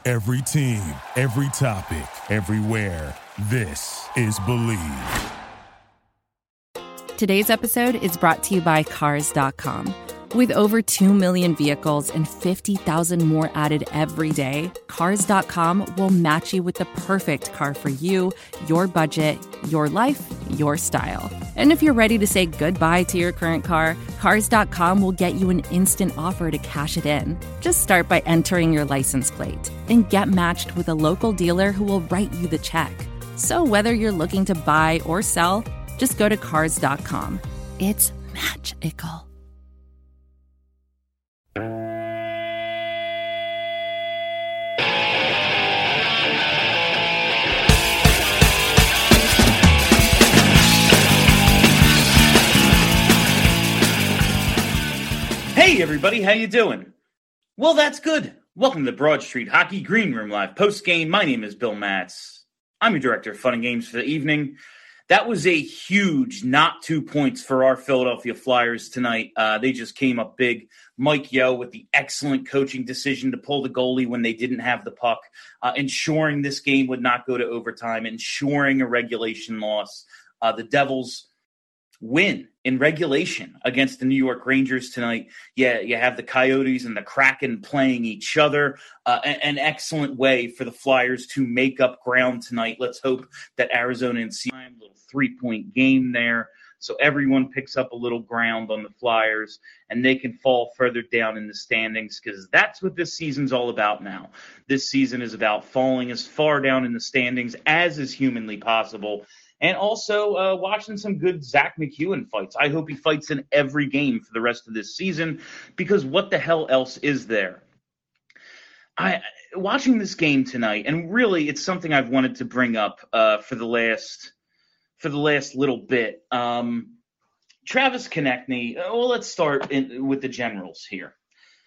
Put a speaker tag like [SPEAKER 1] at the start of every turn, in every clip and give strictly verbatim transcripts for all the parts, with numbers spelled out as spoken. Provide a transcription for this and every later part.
[SPEAKER 1] Every team, every topic, everywhere. This is Believe.
[SPEAKER 2] Today's episode is brought to you by Cars dot com. With over two million vehicles and fifty thousand more added every day, Cars dot com will match you with the perfect car for you, your budget, your life, your style. And if you're ready to say goodbye to your current car, Cars dot com will get you an instant offer to cash it in. Just start by entering your license plate and get matched with a local dealer who will write you the check. So whether you're looking to buy or sell, just go to Cars dot com. It's magical.
[SPEAKER 3] Hey everybody, how you doing? Well, that's good. Welcome to the Broad Street Hockey Green Room Live post-game. My name is Bill Matz. I'm your director of fun and games for the evening. That was a huge not two points for our Philadelphia Flyers tonight. Uh, they just came up big. Mike Yeo with the excellent coaching decision to pull the goalie when they didn't have the puck, uh, ensuring this game would not go to overtime, ensuring a regulation loss. Uh, the Devils win in regulation against the New York Rangers tonight. Yeah, you have the Coyotes and the Kraken playing each other. Uh, an excellent way for the Flyers to make up ground tonight. Let's hope that Arizona and Seattle, a little three-point game there, so everyone picks up a little ground on the Flyers, and they can fall further down in the standings, because that's what this season's all about now. This season is about falling as far down in the standings as is humanly possible. And also uh, watching some good Zach McEwen fights. I hope he fights in every game for the rest of this season, because what the hell else is there? I watching this game tonight, and really it's something I've wanted to bring up uh, for the last for the last little bit. Um, Travis Konecny. Well, let's start in, with the Generals here.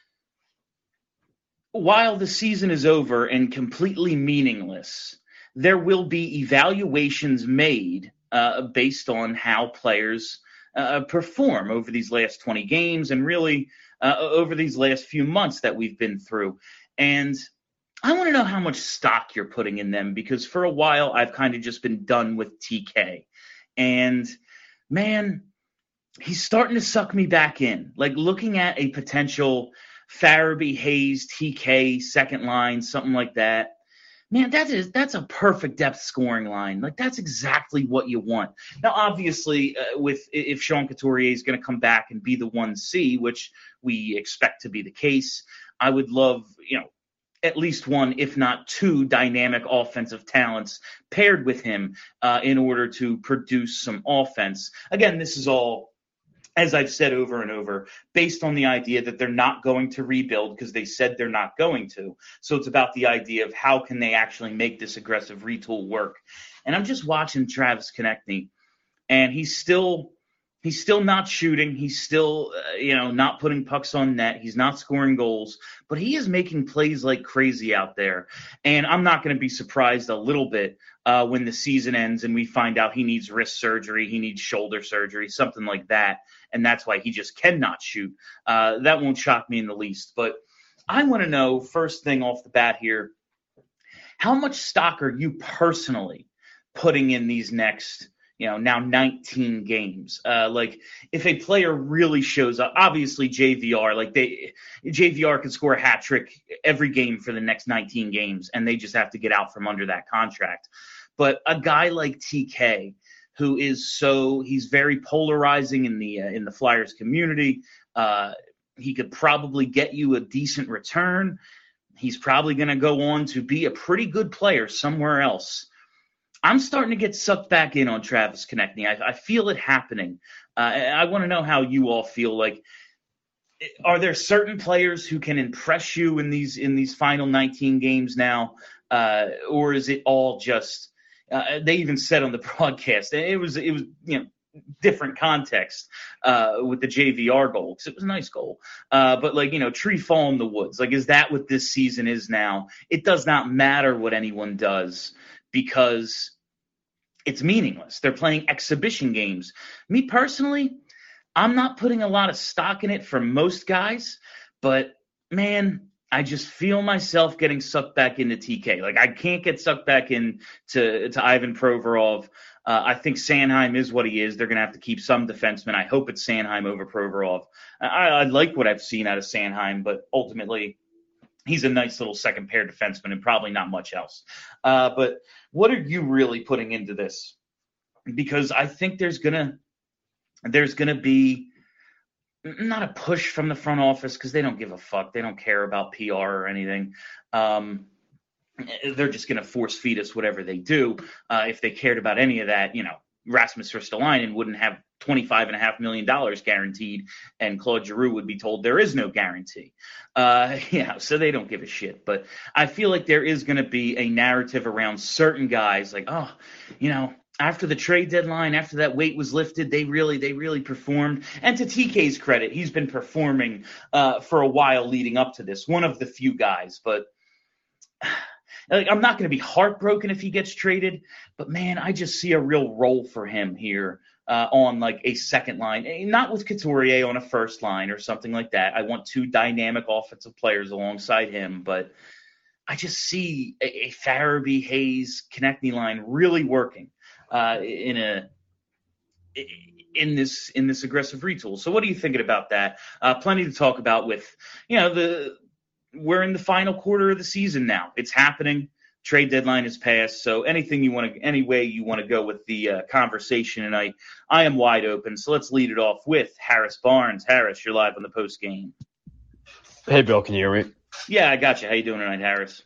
[SPEAKER 3] While the season is over and completely meaningless, there will be evaluations made uh, based on how players uh, perform over these last twenty games and really uh, over these last few months that we've been through. And I want to know how much stock you're putting in them, because for a while I've kind of just been done with T K. And, man, he's starting to suck me back in. Like, looking at a potential Farabee, Hayes, T K, second line, something like that. Man, that is that's a perfect depth scoring line. Like, that's exactly what you want. Now, obviously, uh, with if Sean Couturier is going to come back and be the one C, which we expect to be the case, I would love, you know, at least one, if not two, dynamic offensive talents paired with him uh, in order to produce some offense. Again, this is all, as I've said over and over, based on the idea that they're not going to rebuild, because they said they're not going to. So it's about the idea of how can they actually make this aggressive retool work. And I'm just watching Travis Konecny, and he's still he's still not shooting. He's still, uh, you know, not putting pucks on net. He's not scoring goals, but he is making plays like crazy out there. And I'm not going to be surprised a little bit uh, when the season ends and we find out he needs wrist surgery, he needs shoulder surgery, something like that. And that's why he just cannot shoot. Uh, that won't shock me in the least. But I want to know, first thing off the bat here, how much stock are you personally putting in these next, you know, now nineteen games? Uh, like, if a player really shows up, obviously J V R, like they, J V R can score a hat trick every game for the next nineteen games, and they just have to get out from under that contract. But a guy like T K, who is so, he's very polarizing in the uh, in the Flyers community. Uh, he could probably get you a decent return. He's probably going to go on to be a pretty good player somewhere else. I'm starting to get sucked back in on Travis Konecny. I, I feel it happening. Uh, I want to know how you all feel. Like, are there certain players who can impress you in these in these final nineteen games now, uh, or is it all just? Uh, they even said on the broadcast, it was it was you know different context uh, with the J V R goal, because it was a nice goal. Uh, but like, you know, tree fall in the woods. Like, is that what this season is now? It does not matter what anyone does, because it's meaningless. They're playing exhibition games. Me personally, I'm not putting a lot of stock in it for most guys, but man, I just feel myself getting sucked back into T K. Like, I can't get sucked back in to, to Ivan Provorov. Uh, I think Sanheim is what he is. They're going to have to keep some defensemen. I hope it's Sanheim over Provorov. I, I like what I've seen out of Sanheim, but ultimately he's a nice little second pair defenseman and probably not much else. Uh, but what are you really putting into this? Because I think there's gonna there's gonna be not a push from the front office, because they don't give a fuck. They don't care about P R or anything. Um, they're just going to force feed us whatever they do. Uh, if they cared about any of that, you know, Rasmus Ristolainen wouldn't have twenty-five and a half million dollars guaranteed, and Claude Giroux would be told there is no guarantee. Uh, yeah, so they don't give a shit. But I feel like there is going to be a narrative around certain guys, like, oh, you know, after the trade deadline, after that weight was lifted, they really, they really performed. And to T K's credit, he's been performing uh, for a while leading up to this. One of the few guys, but like, I'm not going to be heartbroken if he gets traded. But man, I just see a real role for him here uh, on like a second line, not with Couturier on a first line or something like that. I want two dynamic offensive players alongside him, but I just see a, a Farabee, Hayes, Konechny line really working. Uh, in a in this in this aggressive retool. So what are you thinking about that? Uh, plenty to talk about with, you know, the we're in the final quarter of the season now. It's happening. Trade deadline is passed. So anything you want to, any way you want to go with the uh, conversation tonight, I am wide open. So let's lead it off with Harris Barnes. Harris, you're live on the post game.
[SPEAKER 4] Hey, Bill, can you hear me?
[SPEAKER 3] Yeah, I got you. How you doing tonight, Harris?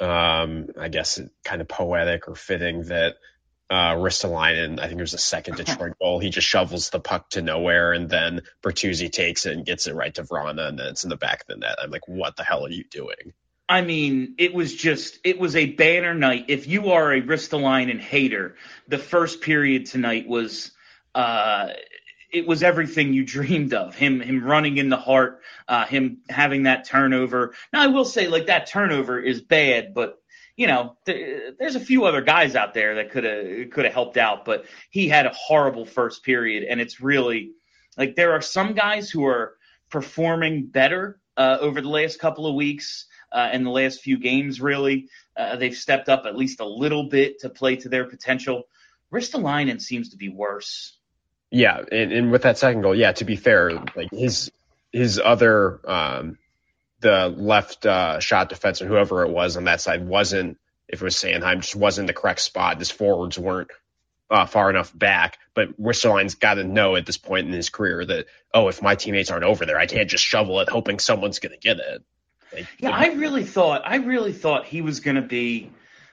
[SPEAKER 4] Um, I guess kind of poetic or fitting that Uh, Ristolainen, I think there's a second Detroit goal. He just shovels the puck to nowhere, and then Bertuzzi takes it and gets it right to Vrana, and then it's in the back of the net. I'm like, what the hell are you doing?
[SPEAKER 3] I mean, it was just, it was a banner night. If you are a Ristolainen hater, the first period tonight was, uh, it was everything you dreamed of. Him, him running in the heart, uh, him having that turnover. Now, I will say, like, that turnover is bad, but you know, th- there's a few other guys out there that could have could have helped out, but he had a horrible first period, and it's really like there are some guys who are performing better uh, over the last couple of weeks uh, and the last few games. Really, uh, they've stepped up at least a little bit to play to their potential. Ristolainen seems to be worse.
[SPEAKER 4] Yeah, and, and with that second goal, yeah, to be fair, like his his other. Um, the left uh, shot defenseman, whoever it was on that side, wasn't, if it was Sanheim, just wasn't the correct spot. His forwards weren't uh, far enough back. But Ristolainen's got to know at this point in his career that, oh, if my teammates aren't over there, I can't just shovel it hoping someone's going to get it. Like,
[SPEAKER 3] yeah, I really thought, I really thought he was going to be,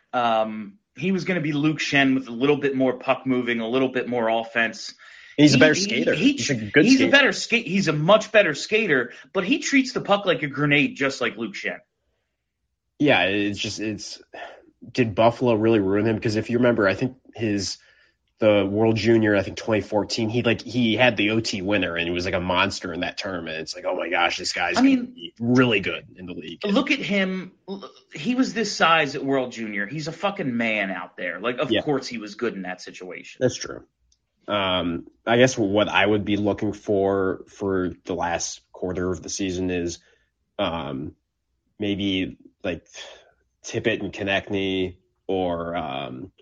[SPEAKER 3] um, he was going to be Luke Schenn with a little bit more puck moving, a little bit more offense.
[SPEAKER 4] He's a better he, skater.
[SPEAKER 3] He, he,
[SPEAKER 4] he's a good
[SPEAKER 3] he's
[SPEAKER 4] skater.
[SPEAKER 3] a better skate. He's a much better skater, but he treats the puck like a grenade, just like Luke Schenn.
[SPEAKER 4] Yeah, it's just it's. Did Buffalo really ruin him? Because if you remember, I think his the World Junior, I think twenty fourteen, he like he had the O T winner and he was like a monster in that tournament. It's like, oh my gosh, this guy's I mean, really good in the league.
[SPEAKER 3] Look at him. He was this size at World Junior. He's a fucking man out there. Like, of yeah. course, he was good in that situation.
[SPEAKER 4] That's true. Um, I guess what I would be looking for for the last quarter of the season is um, maybe like Tippett and Konechny, or um,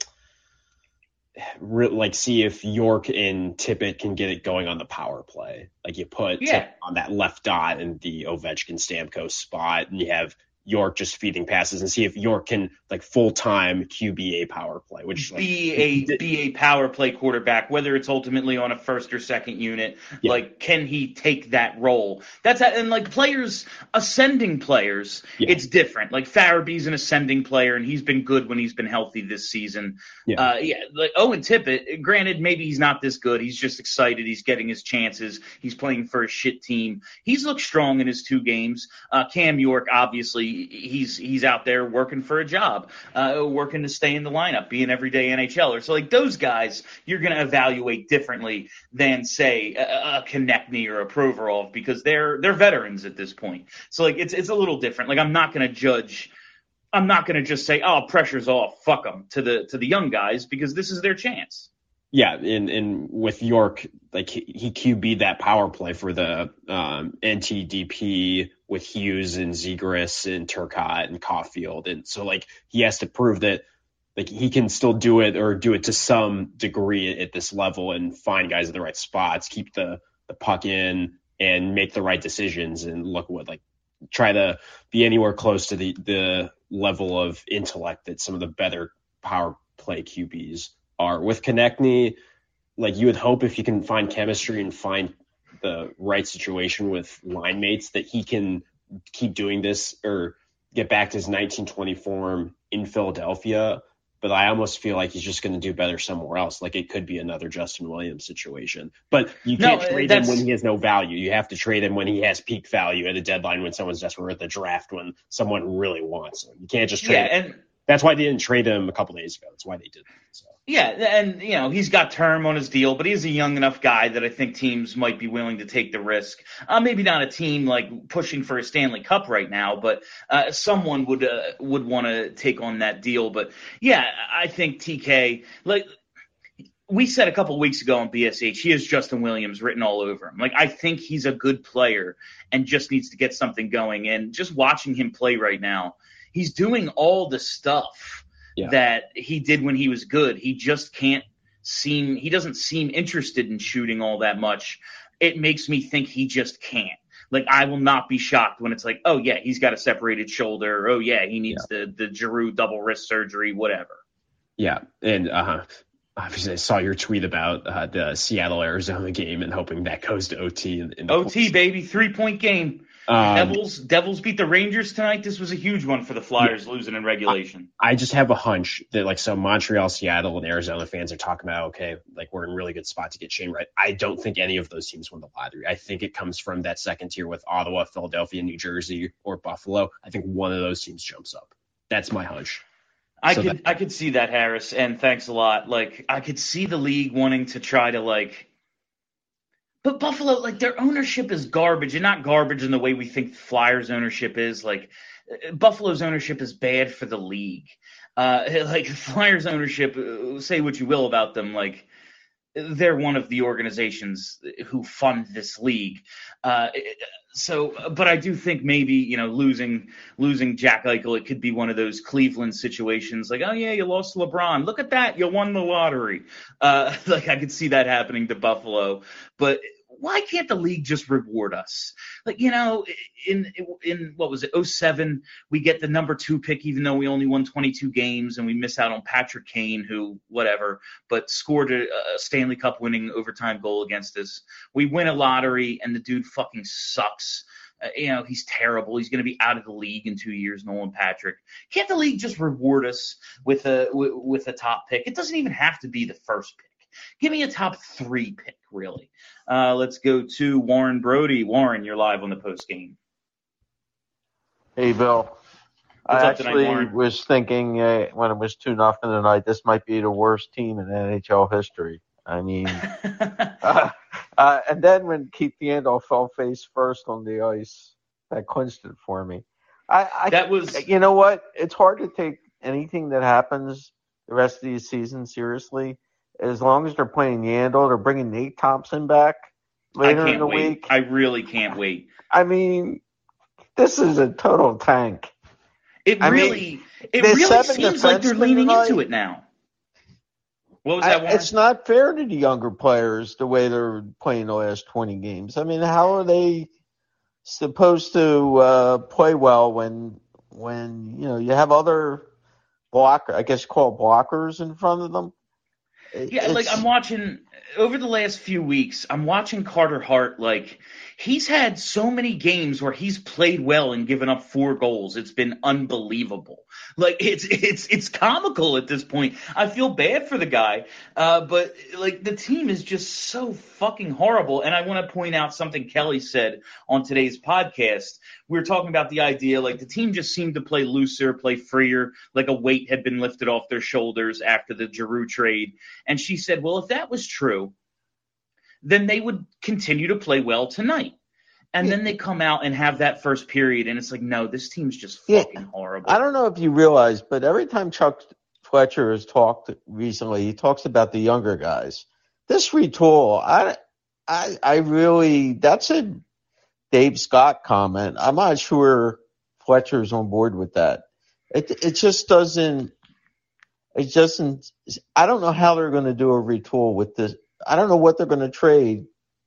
[SPEAKER 4] re- like see if York and Tippett can get it going on the power play. Like you put
[SPEAKER 3] yeah.
[SPEAKER 4] Tippett on that left dot in the Ovechkin Stamkos spot, and you have York just feeding passes, and see if York can like full time Q B A power play, which like,
[SPEAKER 3] be a did, be a power play quarterback, whether it's ultimately on a first or second unit. Yeah. Like, can he take that role? That's and like players, ascending players, yeah. it's different. Like Farabee's an ascending player, and he's been good when he's been healthy this season. Yeah, uh, yeah. Like Owen Tippett, granted, maybe he's not this good. He's just excited. He's getting his chances. He's playing for a shit team. He's looked strong in his two games. Uh, Cam York, obviously. He's he's out there working for a job, uh, working to stay in the lineup, be an everyday N H L er. So like those guys, you're going to evaluate differently than say a, a Konechny or a Provorov, because they're they're veterans at this point. So like it's it's a little different. Like I'm not going to judge. I'm not going to just say, oh, pressure's off, fuck them to the to the young guys, because this is their chance.
[SPEAKER 4] Yeah, and, and with York, like he, he Q B'd that power play for the um, N T D P with Hughes and Zegras and Turcotte and Caulfield. And so like he has to prove that like he can still do it or do it to some degree at this level and find guys at the right spots, keep the, the puck in and make the right decisions. And look what like try to be anywhere close to the, the level of intellect that some of the better power play Q Bs are. With Konechny, like you would hope if you can find chemistry and find the right situation with line mates that he can keep doing this or get back to his nineteen twenty form in Philadelphia. But I almost feel like he's just going to do better somewhere else. Like it could be another Justin Williams situation. But you can't
[SPEAKER 3] no,
[SPEAKER 4] trade him when he has no value. You have to trade him when he has peak value at a deadline when someone's desperate, or at the draft when someone really wants him. You can't just trade
[SPEAKER 3] yeah,
[SPEAKER 4] him.
[SPEAKER 3] And
[SPEAKER 4] that's why they didn't trade him a couple days ago. That's why they did that. So.
[SPEAKER 3] Yeah, and you know he's got term on his deal, but he's a young enough guy that I think teams might be willing to take the risk. Uh, maybe not a team like pushing for a Stanley Cup right now, but uh, someone would uh, would want to take on that deal. But yeah, I think T K, like we said a couple of weeks ago on B S H, he has Justin Williams written all over him. Like I think he's a good player and just needs to get something going. And just watching him play right now, he's doing all the stuff Yeah. that he did when he was good. He just can't seem – he doesn't seem interested in shooting all that much. It makes me think he just can't. Like, I will not be shocked when it's like, oh, yeah, he's got a separated shoulder. Or, oh, yeah, he needs yeah. the, the Giroux double wrist surgery, whatever.
[SPEAKER 4] Yeah, and uh, obviously I saw your tweet about uh, the Seattle-Arizona game and hoping that goes to O T. In, in
[SPEAKER 3] O T, points. Baby, three-point game.
[SPEAKER 4] Um,
[SPEAKER 3] Devils Devils beat the Rangers tonight. This was a huge one for the Flyers yeah, losing in regulation.
[SPEAKER 4] I, I just have a hunch that like some Montreal, Seattle, and Arizona fans are talking about, okay, like we're in a really good spot to get Shane right. I don't think any of those teams win the lottery. I think it comes from that second tier with Ottawa, Philadelphia, New Jersey, or Buffalo. I think one of those teams jumps up. That's my hunch.
[SPEAKER 3] I
[SPEAKER 4] so
[SPEAKER 3] could
[SPEAKER 4] that,
[SPEAKER 3] I could see that, Harris, and thanks a lot. Like I could see the league wanting to try to like But Buffalo, like, their ownership is garbage, and not garbage in the way we think Flyers ownership is. Like, Buffalo's ownership is bad for the league. Uh, like, Flyers ownership, say what you will about them, like, they're one of the organizations who fund this league. Uh, so, but I do think maybe, you know, losing losing Jack Eichel, it could be one of those Cleveland situations. Like, oh, yeah, you lost LeBron. Look at that. You won the lottery. Uh, like, I could see that happening to Buffalo. But why can't the league just reward us? Like, you know, in in what was it, oh seven, we get the number two pick, even though we only won twenty-two games, and we miss out on Patrick Kane, who, whatever, but scored a, a Stanley Cup winning overtime goal against us. We win a lottery, and the dude fucking sucks. Uh, you know, he's terrible. He's going to be out of the league in two years, Nolan Patrick. Can't the league just reward us with a with a top pick? It doesn't even have to be the first pick. Give me a top three pick, really. Uh, let's go to Warren Brody. Warren, you're live on the post game.
[SPEAKER 5] Hey, Bill.
[SPEAKER 3] What's
[SPEAKER 5] I
[SPEAKER 3] up
[SPEAKER 5] actually
[SPEAKER 3] tonight,
[SPEAKER 5] was thinking uh, when it was two nothing tonight, this might be the worst team in N H L history. I mean, uh, uh, and then when Keith Yandel fell face first on the ice, that clinched it for me. I, I
[SPEAKER 3] that was,
[SPEAKER 5] you know what? It's hard to take anything that happens the rest of the season seriously. As long as they're playing Yandel, they're bringing Nate Thompson back later in the
[SPEAKER 3] wait.
[SPEAKER 5] week.
[SPEAKER 3] I really can't wait.
[SPEAKER 5] I mean, this is a total tank.
[SPEAKER 3] It
[SPEAKER 5] I
[SPEAKER 3] really,
[SPEAKER 5] mean,
[SPEAKER 3] it really seems like they're leaning tonight. into it now. What was that, Warren?
[SPEAKER 5] It's not fair to the younger players the way they're playing the last twenty games. I mean, how are they supposed to uh, play well when when you know you have other blocker, I guess called blockers in front of them?
[SPEAKER 3] Yeah, it's, like I'm watching over the last few weeks, I'm watching Carter Hart. Like he's had so many games where he's played well and given up four goals. It's been unbelievable. Like it's it's it's comical at this point. I feel bad for the guy, uh, but like the team is just so fucking horrible. And I want to point out something Kelly said on today's podcast. We were talking about the idea like the team just seemed to play looser, play freer, like a weight had been lifted off their shoulders after the Giroux trade. And she said, well, if that was true, then they would continue to play well tonight. And yeah. then they come out and have that first period, and it's like, no, this team's just fucking yeah. horrible.
[SPEAKER 5] I don't know if you realize, but every time Chuck Fletcher has talked recently. He talks about the younger guys. This retool, I, I, I really, that's a Dave Scott comment. I'm not sure Fletcher's on board with that. It, it just doesn't, it doesn't, I don't know how they're going to do a retool with this. I don't know what they're going to trade.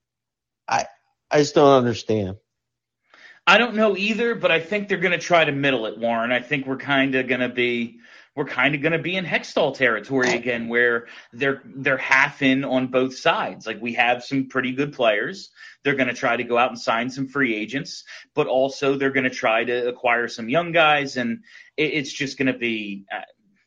[SPEAKER 5] I, I just don't understand.
[SPEAKER 3] I don't know either, but I think they're going to try to middle it, Warren. I think we're kind of going to be we're kind of going to be in Hextall territory again, where they're they're half in on both sides. Like, we have some pretty good players. They're going to try to go out and sign some free agents, but also they're going to try to acquire some young guys, and it, it's just going to be. Uh,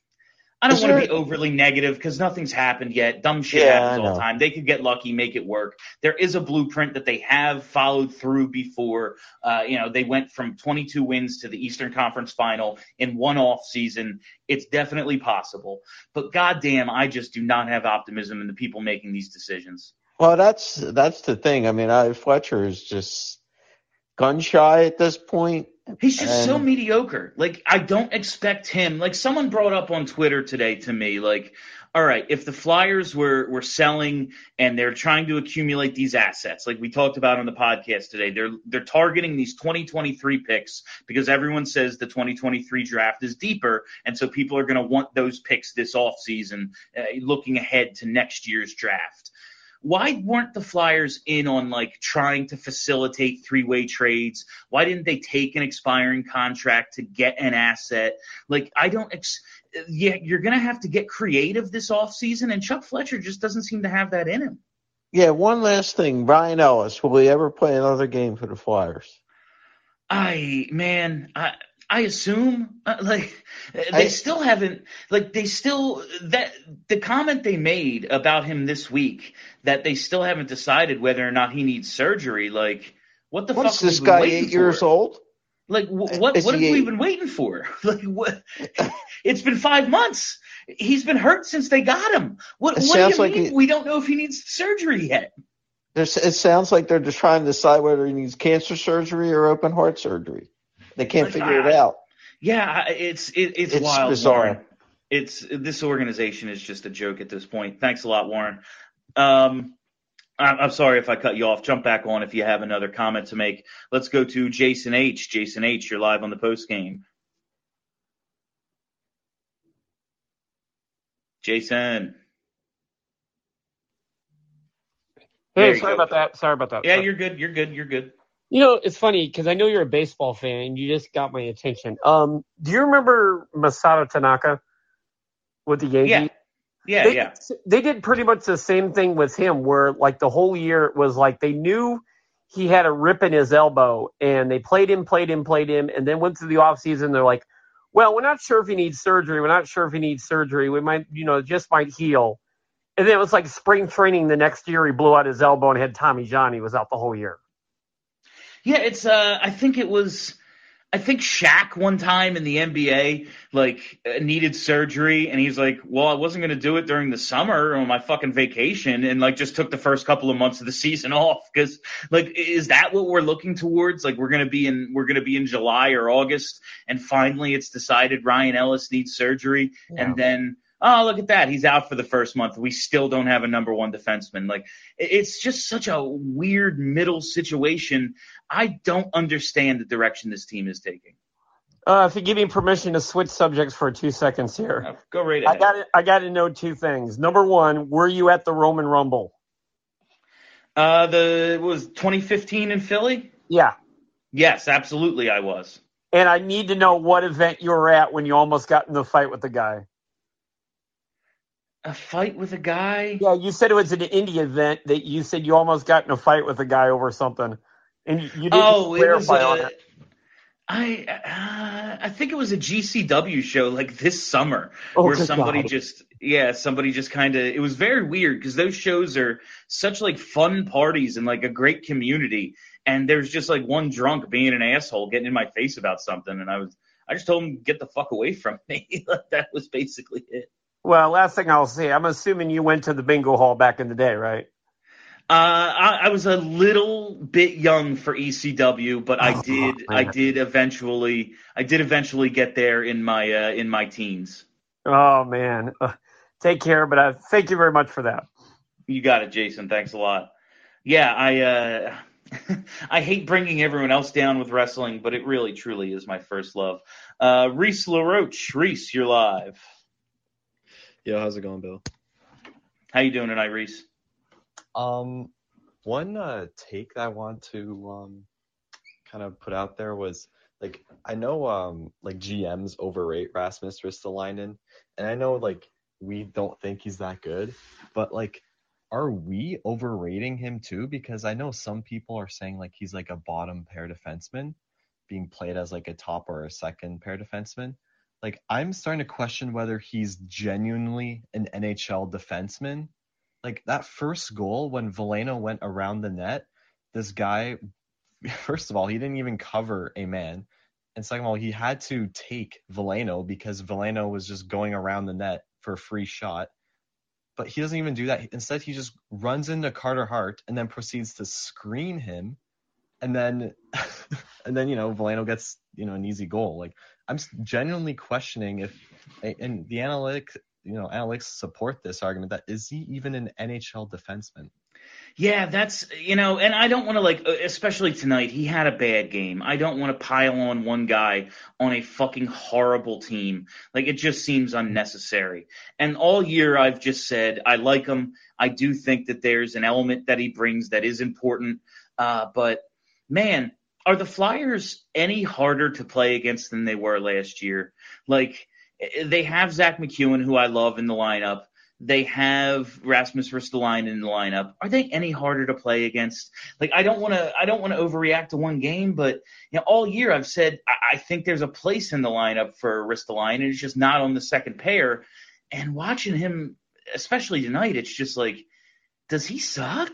[SPEAKER 3] I don't want to be overly negative because nothing's happened yet. Dumb shit
[SPEAKER 5] Yeah,
[SPEAKER 3] happens
[SPEAKER 5] I
[SPEAKER 3] all the
[SPEAKER 5] know.
[SPEAKER 3] time. They could get lucky, make it work. There is a blueprint that they have followed through before. Uh, you know, they went from twenty-two wins to the Eastern Conference Final in one off season. It's definitely possible. But goddamn, I just do not have optimism in the people making these decisions.
[SPEAKER 5] Well, that's that's the thing. I mean, I, Fletcher is just gun shy at this point.
[SPEAKER 3] He's just so
[SPEAKER 5] And-
[SPEAKER 3] mediocre. Like, I don't expect him. Like, someone brought up on Twitter today to me, like, all right, if the Flyers were were selling and they're trying to accumulate these assets, like we talked about on the podcast today, they're they're targeting these twenty twenty-three picks because everyone says the twenty twenty-three draft is deeper, and so people are going to want those picks this offseason, uh, looking ahead to next year's draft. Why weren't the Flyers in on, like, trying to facilitate three-way trades? Why didn't they take an expiring contract to get an asset? Like, I don't ex- – yeah, you're going to have to get creative this offseason, and Chuck Fletcher just doesn't seem to have that in him.
[SPEAKER 5] Yeah, one last thing. Brian Ellis, will he ever play another game for the Flyers?
[SPEAKER 3] I – man, I – I assume, uh, like, they
[SPEAKER 5] I-
[SPEAKER 3] still haven't, like, they still, that, the comment they made about him this week, that they still haven't decided whether or not he needs surgery, like, what the
[SPEAKER 5] What's
[SPEAKER 3] fuck have
[SPEAKER 5] this
[SPEAKER 3] we been
[SPEAKER 5] guy,
[SPEAKER 3] waiting
[SPEAKER 5] eight years
[SPEAKER 3] for?
[SPEAKER 5] old?
[SPEAKER 3] Like, wh- what,
[SPEAKER 5] Is
[SPEAKER 3] what have
[SPEAKER 5] he
[SPEAKER 3] we
[SPEAKER 5] eight?
[SPEAKER 3] been waiting for? Like, what, it's been five months. He's been hurt since they got him. What,
[SPEAKER 5] It
[SPEAKER 3] what do you
[SPEAKER 5] sounds like
[SPEAKER 3] mean
[SPEAKER 5] he-
[SPEAKER 3] we don't know if he needs surgery yet?
[SPEAKER 5] There's, it sounds like they're just trying to decide whether he needs cancer surgery or open heart surgery. They can't
[SPEAKER 3] Like,
[SPEAKER 5] figure it
[SPEAKER 3] I-
[SPEAKER 5] out.
[SPEAKER 3] Yeah, it's it, it's,
[SPEAKER 5] It's
[SPEAKER 3] wild,
[SPEAKER 5] bizarre.
[SPEAKER 3] Warren. It's this organization is just a joke at this point. Thanks a lot, Warren. Um, I'm, I'm sorry if I cut you off. Jump back on if you have another comment to make. Let's go to Jason H. Jason H., you're live on the post game. Jason. There
[SPEAKER 6] Hey,
[SPEAKER 3] you
[SPEAKER 6] sorry
[SPEAKER 3] go.
[SPEAKER 6] about that. Sorry about that.
[SPEAKER 3] Yeah,
[SPEAKER 6] Sorry.
[SPEAKER 3] you're good. You're good. You're good.
[SPEAKER 6] You know, it's funny because I know you're a baseball fan and you just got my attention. Um, do you remember Masato Tanaka with the Yankees?
[SPEAKER 3] Yeah. Yeah,
[SPEAKER 6] they,
[SPEAKER 3] yeah.
[SPEAKER 6] They did pretty much the same thing with him where, like, the whole year it was like they knew he had a rip in his elbow and they played him, played him, played him, and then went through the offseason. They're like, well, we're not sure if he needs surgery. We're not sure if he needs surgery. We might, you know, it just might heal. And then it was like spring training the next year. He blew out his elbow and had Tommy John. He was out the whole year.
[SPEAKER 3] Yeah, it's uh I think it was I think Shaq one time in the N B A like uh, needed surgery and he's like, "Well, I wasn't going to do it during the summer on my fucking vacation," and like just took the first couple of months of the season off cuz like is that what we're looking towards? Like we're going to be in we're going to be in July or August and finally it's decided Ryan Ellis needs surgery
[SPEAKER 6] Yeah.
[SPEAKER 3] and then oh, look at that. He's out for the first month. We still don't have a number one defenseman. Like, it's just such a weird middle situation. I don't understand the direction this team is taking.
[SPEAKER 6] Uh, if you give me permission to switch subjects for two seconds here.
[SPEAKER 3] Uh, Go right
[SPEAKER 6] I
[SPEAKER 3] ahead.
[SPEAKER 6] got to, I got to know two things. Number one, were you at the Roman Rumble?
[SPEAKER 3] Uh, the it was twenty fifteen in Philly?
[SPEAKER 6] Yeah.
[SPEAKER 3] Yes, absolutely I was.
[SPEAKER 6] And I need to know what event you were at when you almost got in the fight with the guy.
[SPEAKER 3] A fight with a guy?
[SPEAKER 6] Yeah, you said it was an indie event that you said you almost got in a fight with a guy over something. And you, you didn't
[SPEAKER 3] Oh, it was
[SPEAKER 6] clarify on
[SPEAKER 3] a,
[SPEAKER 6] it.
[SPEAKER 3] I uh, I think it was a G C W show like this summer
[SPEAKER 6] Oh,
[SPEAKER 3] where
[SPEAKER 6] good
[SPEAKER 3] somebody
[SPEAKER 6] God.
[SPEAKER 3] just yeah somebody just kind of it was very weird because those shows are such like fun parties and like a great community and there's just like one drunk being an asshole getting in my face about something and I was I just told him get the fuck away from me. Like, that was basically it.
[SPEAKER 6] Well, last thing I'll say, I'm assuming you went to the bingo hall back in the day, right?
[SPEAKER 3] Uh, I, I was a little bit young for E C W, but I
[SPEAKER 6] Oh,
[SPEAKER 3] did
[SPEAKER 6] man.
[SPEAKER 3] I did eventually I did eventually get there in my uh, in my teens.
[SPEAKER 6] Oh, man. Uh, take care, but uh, thank you very much for that.
[SPEAKER 3] You got it, Jason. Thanks a lot. Yeah, I uh, I hate bringing everyone else down with wrestling, but it really, truly is my first love. Uh, Reese LaRoche. Reese, you're live.
[SPEAKER 7] Yo, how's it going, Bill?
[SPEAKER 3] How you doing tonight, Reese?
[SPEAKER 7] Um, one uh, take that I want to um kind of put out there was, like, I know um like G Ms overrate Rasmus Ristolainen, and I know like we don't think he's that good, but like, are we overrating him too? Because I know some people are saying like he's like a bottom pair defenseman being played as like a top or a second pair defenseman. Like, I'm starting to question whether he's genuinely an N H L defenseman. Like, that first goal when Veleno went around the net, this guy, first of all, he didn't even cover a man. And second of all, he had to take Veleno because Veleno was just going around the net for a free shot. But he doesn't even do that. Instead, he just runs into Carter Hart and then proceeds to screen him. And then, and then, you know, Veleno gets, you know, an easy goal. Like, I'm genuinely questioning if, and the analytics, you know, analytics support this argument that is he even an N H L defenseman?
[SPEAKER 3] Yeah, that's, you know, and I don't want to, like, especially tonight, he had a bad game. I don't want to pile on one guy on a fucking horrible team. Like, it just seems unnecessary. And all year I've just said, I like him. I do think that there's an element that he brings that is important. Uh, but, man, are the Flyers any harder to play against than they were last year? Like, they have Zach McEwen, who I love, in the lineup. They have Rasmus Ristolainen in the lineup. Are they any harder to play against? Like, I don't want to, I don't want to overreact to one game, but you know, all year I've said I, I think there's a place in the lineup for Ristolainen. It's just not on the second pair. And watching him, especially tonight, it's just like, does he suck?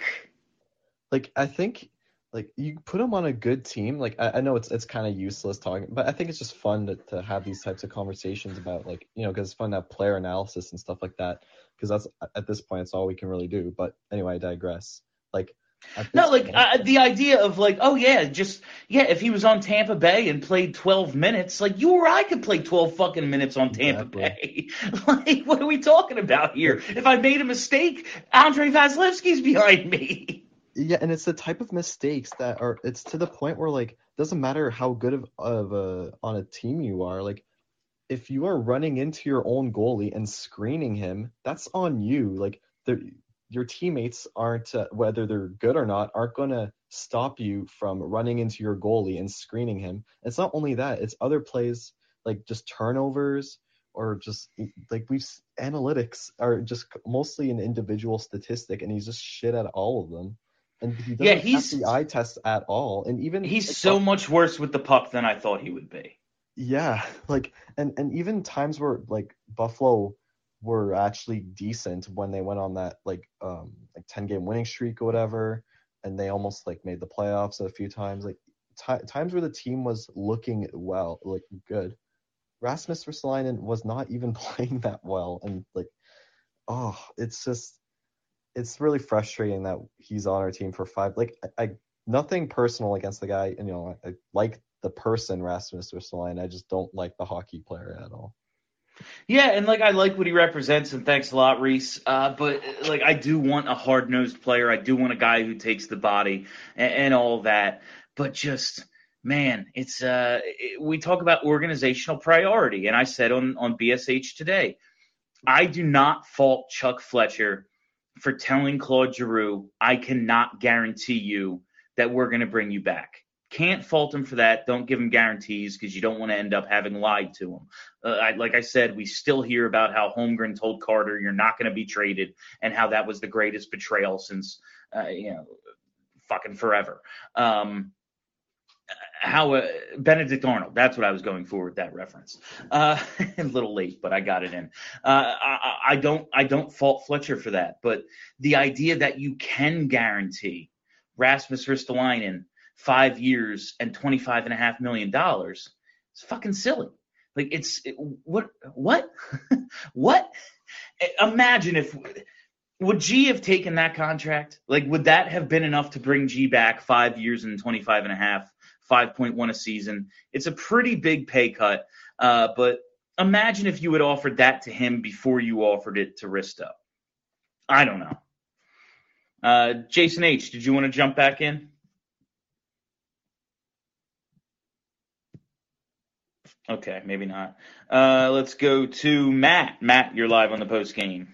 [SPEAKER 7] Like, I think, like, you put him on a good team. Like, I, I know it's it's kind of useless talking, but I think it's just fun to, to have these types of conversations about, like, you know, because it's fun to have player analysis and stuff like that. Because that's, at this point, it's all we can really do. But anyway, I digress. Like,
[SPEAKER 3] no, like
[SPEAKER 7] point,
[SPEAKER 3] uh, the idea of like, oh yeah, just yeah, if he was on Tampa Bay and played twelve minutes, like you or I could play twelve fucking minutes on Tampa Bay. Like, what are we talking about here? If I made a mistake, Andrei Vasilevsky's behind me.
[SPEAKER 7] Yeah, and it's the type of mistakes that are, it's to the point where, like, doesn't matter how good of, of a on a team you are. Like, if you are running into your own goalie and screening him, that's on you. Like, your teammates aren't, uh, whether they're good or not, aren't going to stop you from running into your goalie and screening him. It's not only that, it's other plays, like just turnovers or just, like, we've, analytics are just mostly an individual statistic, and he's just shit at all of them. And he doesn't
[SPEAKER 3] yeah, he's,
[SPEAKER 7] pass the eye test at all. And even
[SPEAKER 3] he's
[SPEAKER 7] like,
[SPEAKER 3] so much worse with the puck than I thought he would be.
[SPEAKER 7] Yeah, like, and, and even times where, like, Buffalo were actually decent when they went on that, like, um, like ten-game winning streak or whatever, and they almost, like, made the playoffs a few times. Like, t- times where the team was looking well, like, good. Rasmus Ristolainen was not even playing that well, and, like, oh, it's just, it's really frustrating that he's on our team for five. Like, I, I nothing personal against the guy, and, you know, I, I like the person Rasmus Ristolainen. I just don't like the hockey player at all.
[SPEAKER 3] Yeah, and like I like what he represents, and thanks a lot, Reese. Uh, but like I do want a hard-nosed player. I do want a guy who takes the body and, and all that. But just man, it's uh, it, we talk about organizational priority, and I said on on B S H today, I do not fault Chuck Fletcher for telling Claude Giroux, I cannot guarantee you that we're going to bring you back. Can't fault him for that. Don't give him guarantees because you don't want to end up having lied to him. Uh, I, like I said, we still hear about how Holmgren told Carter you're not going to be traded and how that was the greatest betrayal since, uh, you know, fucking forever. Um, how uh, Benedict Arnold, that's what I was going for with that reference. Uh, a little late, but I got it in. Uh, I, I don't I don't fault Fletcher for that. But the idea that you can guarantee Rasmus Ristolainen five years and twenty-five and a half million dollars. It's fucking silly. Like it's it, what, what, what? Imagine if, would G have taken that contract? Like, would that have been enough to bring G back five years and twenty-five and a half, five point one a season? It's a pretty big pay cut. Uh, but imagine if you had offered that to him before you offered it to Risto. I don't know. Uh, Jason H., did you want to jump back in? Okay, maybe not. Uh, let's go to Matt. Matt, you're live on the post game.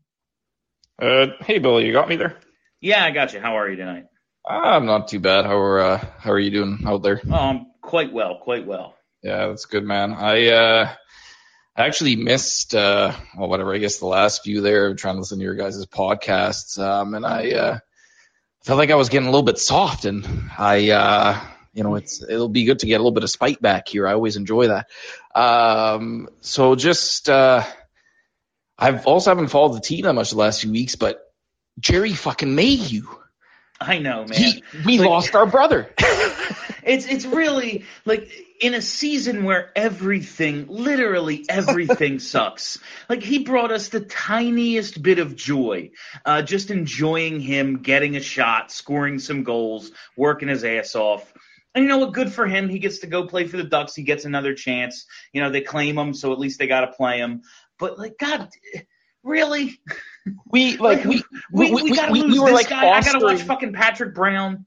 [SPEAKER 8] Uh, hey, Billy, you got me there?
[SPEAKER 3] Yeah, I got you. How are you tonight?
[SPEAKER 8] I'm not too bad. How are uh, how are you doing out there?
[SPEAKER 3] Oh, I'm quite well, quite well.
[SPEAKER 8] Yeah, that's good, man. I uh, actually missed, uh, well, whatever, I guess the last few there, trying to listen to your guys' podcasts, um, and I uh, felt like I was getting a little bit soft, and I, uh, you know, it's it'll be good to get a little bit of spite back here. I always enjoy that. Um, so just, uh, I've also haven't followed the team that much the last few weeks, but Jerry fucking Mayhew.
[SPEAKER 3] I know, man.
[SPEAKER 8] He, we
[SPEAKER 3] like,
[SPEAKER 8] lost our brother.
[SPEAKER 3] It's it's really like in a season where everything, literally everything sucks. Like he brought us the tiniest bit of joy, uh, just enjoying him getting a shot, scoring some goals, working his ass off. And you know what? Good for him. He gets to go play for the Ducks. He gets another chance. You know, they claim him, so at least they got to play him. But like, God, really?
[SPEAKER 8] We like we
[SPEAKER 3] we, we, we gotta we, lose we were this like guy. Fostering. I gotta watch fucking Patrick Brown.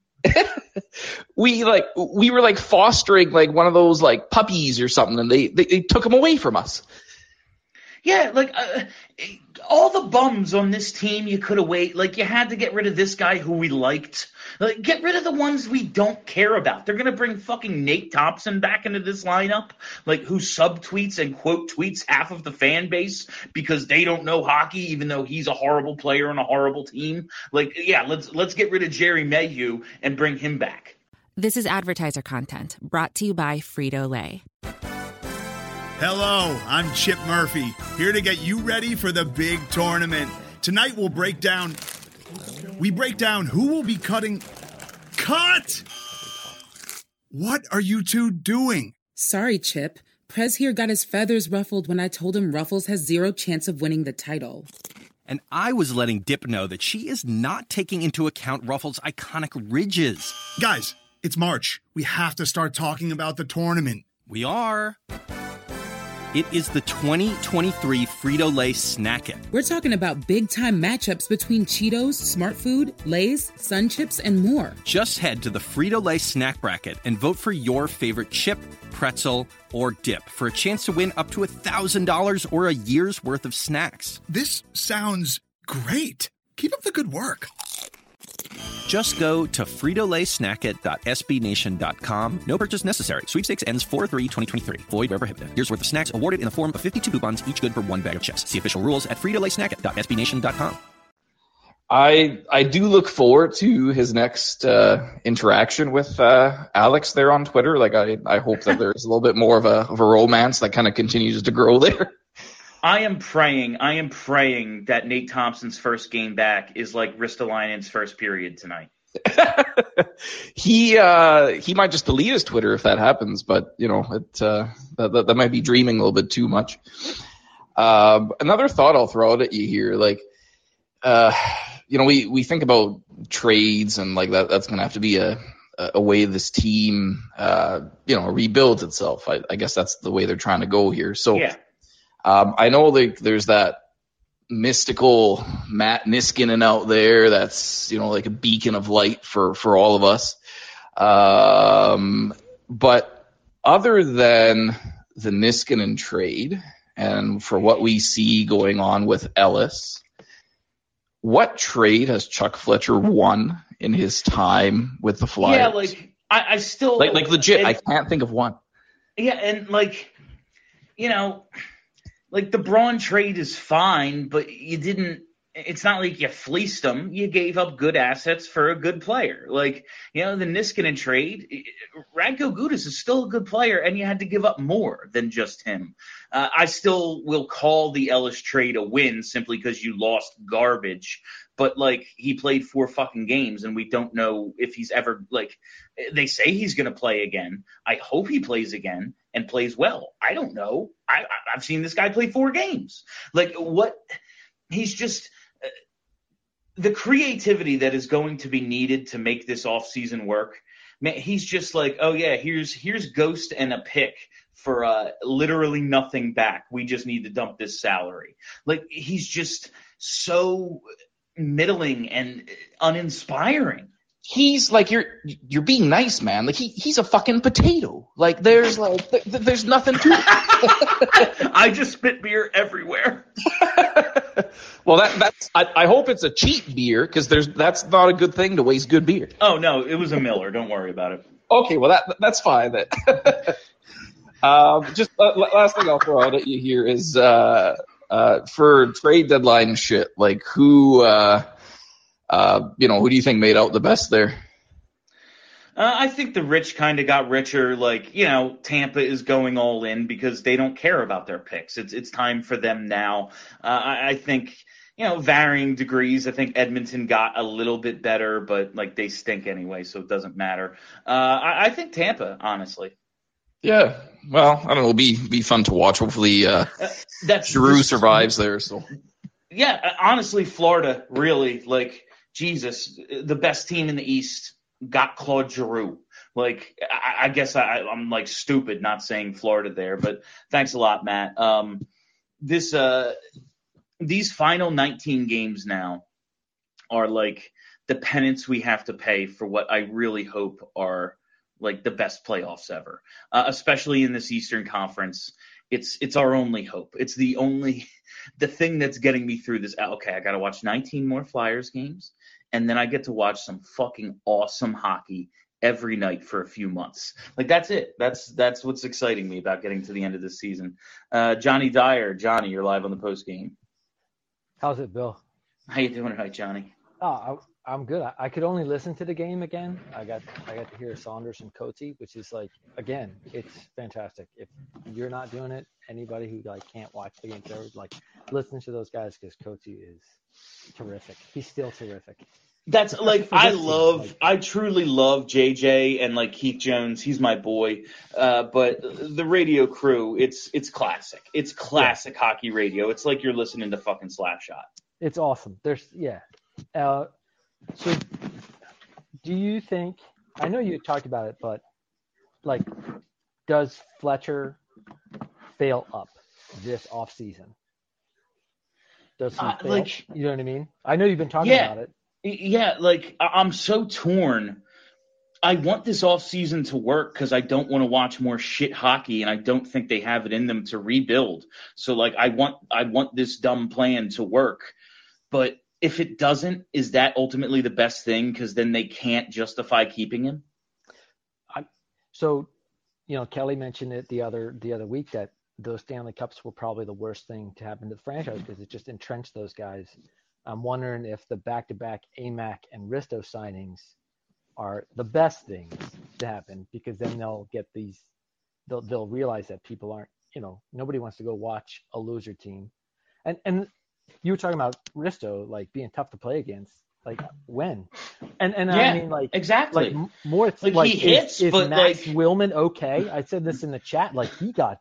[SPEAKER 8] we like we were like fostering like one of those like puppies or something, and they they, they took him away from us.
[SPEAKER 3] Yeah, like uh, all the bums on this team you could have waited. Like you had to get rid of this guy who we liked. Like get rid of the ones we don't care about. They're gonna bring fucking Nate Thompson back into this lineup, like who subtweets and quote tweets half of the fan base because they don't know hockey, even though he's a horrible player on a horrible team. Like yeah, let's let's get rid of Jerry Mayhew and bring him back.
[SPEAKER 2] This is advertiser content brought to you by Frito-Lay.
[SPEAKER 9] Hello, I'm Chip Murphy, here to get you ready for the big tournament. Tonight we'll break down, we break down who will be cutting, cut! What are you two doing?
[SPEAKER 10] Sorry, Chip. Prez here got his feathers ruffled when I told him Ruffles has zero chance of winning the title.
[SPEAKER 11] And I was letting Dip know that she is not taking into account Ruffles' iconic ridges.
[SPEAKER 9] Guys, it's March. We have to start talking about the tournament.
[SPEAKER 11] We are. It is the twenty twenty-three Frito-Lay Snack It.
[SPEAKER 10] We're talking about big-time matchups between Cheetos, Smart Food, Lay's, Sun Chips, and more.
[SPEAKER 11] Just head to the Frito-Lay Snack Bracket and vote for your favorite chip, pretzel, or dip for a chance to win up to one thousand dollars or a year's worth of snacks.
[SPEAKER 9] This sounds great. Keep up the good work.
[SPEAKER 11] Just go to Frito Lay Snack It dot S B Nation dot com. No purchase necessary. Sweepstakes ends four three twenty twenty-three. Void where prohibited. Year's worth of snacks awarded in the form of fifty-two coupons, each good for one bag of chips. See official rules at Frito Lay Snack It dot S B Nation dot com.
[SPEAKER 8] I I do look forward to his next uh, interaction with uh, Alex there on Twitter. Like I, I hope that there's a little bit more of a of a romance that kind of continues to grow there.
[SPEAKER 3] I am praying, I am praying that Nate Thompson's first game back is like Ristolainen's first period tonight.
[SPEAKER 8] he uh, he might just delete his Twitter if that happens, but you know it uh, that, that that might be dreaming a little bit too much. Uh, another thought I'll throw out at you here, like uh, you know, we, we think about trades and like that that's gonna have to be a a way this team uh, you know rebuilds itself. I, I guess that's the way they're trying to go here. So.
[SPEAKER 3] Yeah.
[SPEAKER 8] Um, I know like there's that mystical Matt Niskanen out there that's, you know, like a beacon of light for, for all of us. Um, but other than the Niskanen trade and for what we see going on with Ellis, what trade has Chuck Fletcher won in his time with the Flyers?
[SPEAKER 3] Yeah, like I, I still
[SPEAKER 8] like like legit, and, I can't think of one.
[SPEAKER 3] Yeah, and like you know. Like, the Braun trade is fine, but you didn't – it's not like you fleeced them. You gave up good assets for a good player. Like, you know, the Niskanen trade, Radko Gudas is still a good player, and you had to give up more than just him. Uh, I still will call the Ellis trade a win simply because you lost garbage. But, like, he played four fucking games, and we don't know if he's ever – like, they say he's going to play again. I hope he plays again and plays well. I don't know. I, I've seen this guy play four games. Like, what – he's just uh, – the creativity that is going to be needed to make this offseason work, man, he's just like, oh, yeah, here's here's Ghost and a pick for uh, literally nothing back. We just need to dump this salary. Like, he's just so middling and uninspiring.
[SPEAKER 8] He's like, you're you're being nice, man. Like he he's a fucking potato. Like there's like th- th- there's nothing to it.
[SPEAKER 3] I just spit beer everywhere.
[SPEAKER 8] Well, that that's I, I hope it's a cheap beer because there's that's not a good thing to waste good beer.
[SPEAKER 3] Oh no, it was a Miller. Don't worry about it.
[SPEAKER 8] Okay, well that that's fine then. um, just uh, last thing I'll throw out at you here is uh, uh, for trade deadline shit. Like who. Uh, Uh, you know, who do you think made out the best there?
[SPEAKER 3] Uh, I think the rich kind of got richer. Like, you know, Tampa is going all in because they don't care about their picks. It's it's time for them now. Uh, I, I think, you know, varying degrees. I think Edmonton got a little bit better, but, like, they stink anyway, so it doesn't matter. Uh, I, I think Tampa, honestly.
[SPEAKER 8] Yeah. Well, I don't know. It'll be, be fun to watch. Hopefully uh,
[SPEAKER 3] uh, that's
[SPEAKER 8] Giroux
[SPEAKER 3] just,
[SPEAKER 8] survives there. So.
[SPEAKER 3] Yeah, honestly, Florida, really, like, Jesus, the best team in the East got Claude Giroux. Like, I, I guess I, I'm like stupid not saying Florida there, but thanks a lot, Matt. Um, this, uh, these final nineteen games now are like the penance we have to pay for what I really hope are like the best playoffs ever, uh, especially in this Eastern Conference. It's it's our only hope. It's the only the thing that's getting me through this. Okay, I got to watch nineteen more Flyers games, and then I get to watch some fucking awesome hockey every night for a few months. Like that's it. That's that's what's exciting me about getting to the end of this season. Uh, Johnny Dyer, Johnny, you're live on the post game.
[SPEAKER 12] How's it, Bill?
[SPEAKER 3] How you doing tonight, Johnny?
[SPEAKER 12] Oh, I, I'm good. I, I could only listen to the game again. I got I got to hear Saunders and Coates, which is like, again, it's fantastic. If you're not doing it, anybody who like can't watch the game, like listen to those guys because Coates is terrific. He's still terrific.
[SPEAKER 3] That's like I love, I truly love J J and like Keith Jones. He's my boy. Uh, but the radio crew, it's it's classic. It's classic yeah. hockey radio. It's like you're listening to fucking Slapshot.
[SPEAKER 12] It's awesome. There's yeah. Uh, so do you think? I know you talked about it, but like, does Fletcher fail up this off season? Does he
[SPEAKER 3] uh,
[SPEAKER 12] fail?
[SPEAKER 3] Like,
[SPEAKER 12] you know what I mean? I know you've been talking
[SPEAKER 3] yeah.
[SPEAKER 12] about it.
[SPEAKER 3] Yeah, like I'm so torn. I want this offseason to work because I don't want to watch more shit hockey, and I don't think they have it in them to rebuild. So like I want I want this dumb plan to work. But if it doesn't, is that ultimately the best thing? Because then they can't justify keeping him.
[SPEAKER 12] I, so, you know, Kelly mentioned it the other the other week that those Stanley Cups were probably the worst thing to happen to the franchise because it just entrenched those guys. I'm wondering if the back-to-back A M A C and Risto signings are the best things to happen because then they'll get these, they'll they'll realize that people aren't, you know, nobody wants to go watch a loser team. And and you were talking about Risto like being tough to play against, like when? And and
[SPEAKER 3] yeah,
[SPEAKER 12] I mean like
[SPEAKER 3] exactly.
[SPEAKER 12] Like more it's
[SPEAKER 3] like,
[SPEAKER 12] like
[SPEAKER 3] he hits,
[SPEAKER 12] is, is
[SPEAKER 3] but
[SPEAKER 12] Max
[SPEAKER 3] like
[SPEAKER 12] Willman okay? I said this in the chat, like he got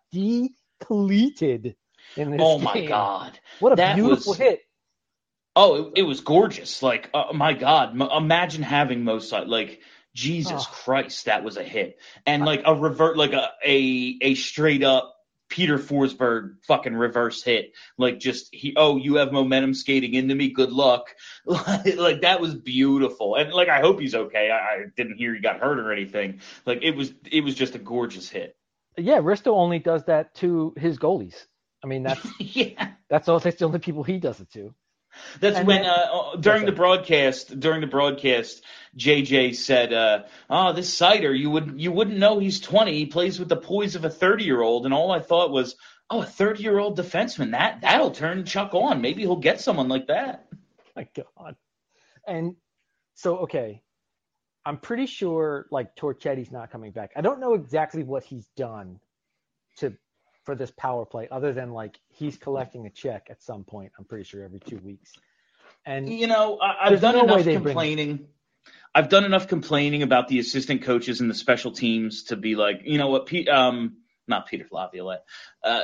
[SPEAKER 12] depleted in this
[SPEAKER 3] oh
[SPEAKER 12] game.
[SPEAKER 3] my god,
[SPEAKER 12] what a
[SPEAKER 3] that
[SPEAKER 12] beautiful
[SPEAKER 3] was...
[SPEAKER 12] hit.
[SPEAKER 3] Oh, it, it was gorgeous. Like, uh, my God, m- imagine having Mosai. Like, Jesus
[SPEAKER 12] oh.
[SPEAKER 3] Christ, that was a hit. And like a revert, like a, a, a straight up Peter Forsberg fucking reverse hit. Like just, he, oh, you have momentum skating into me. Good luck. Like that was beautiful. And like, I hope he's okay. I, I didn't hear he got hurt or anything. Like it was, it was just a gorgeous hit.
[SPEAKER 12] Yeah. Risto only does that to his goalies. I mean, that's,
[SPEAKER 3] yeah,
[SPEAKER 12] that's all, that's the only people he does it to.
[SPEAKER 3] That's
[SPEAKER 12] and
[SPEAKER 3] when
[SPEAKER 12] then,
[SPEAKER 3] uh, during the broadcast, during the broadcast, J J said, uh, "Oh, this Seider, you would you wouldn't know he's twenty. He plays with the poise of a thirty-year-old." And all I thought was, "Oh, a thirty-year-old defenseman that that'll turn Chuck on. Maybe he'll get someone like that."
[SPEAKER 12] My God. And so, okay, I'm pretty sure like Torchetti's not coming back. I don't know exactly what he's done to. for this power play other than like he's collecting a check at some point, I'm pretty sure every two weeks. And
[SPEAKER 3] you know, I, I've done no enough complaining. I've done enough complaining about the assistant coaches and the special teams to be like, you know what, Pete, um, not Peter Laviolette. Uh,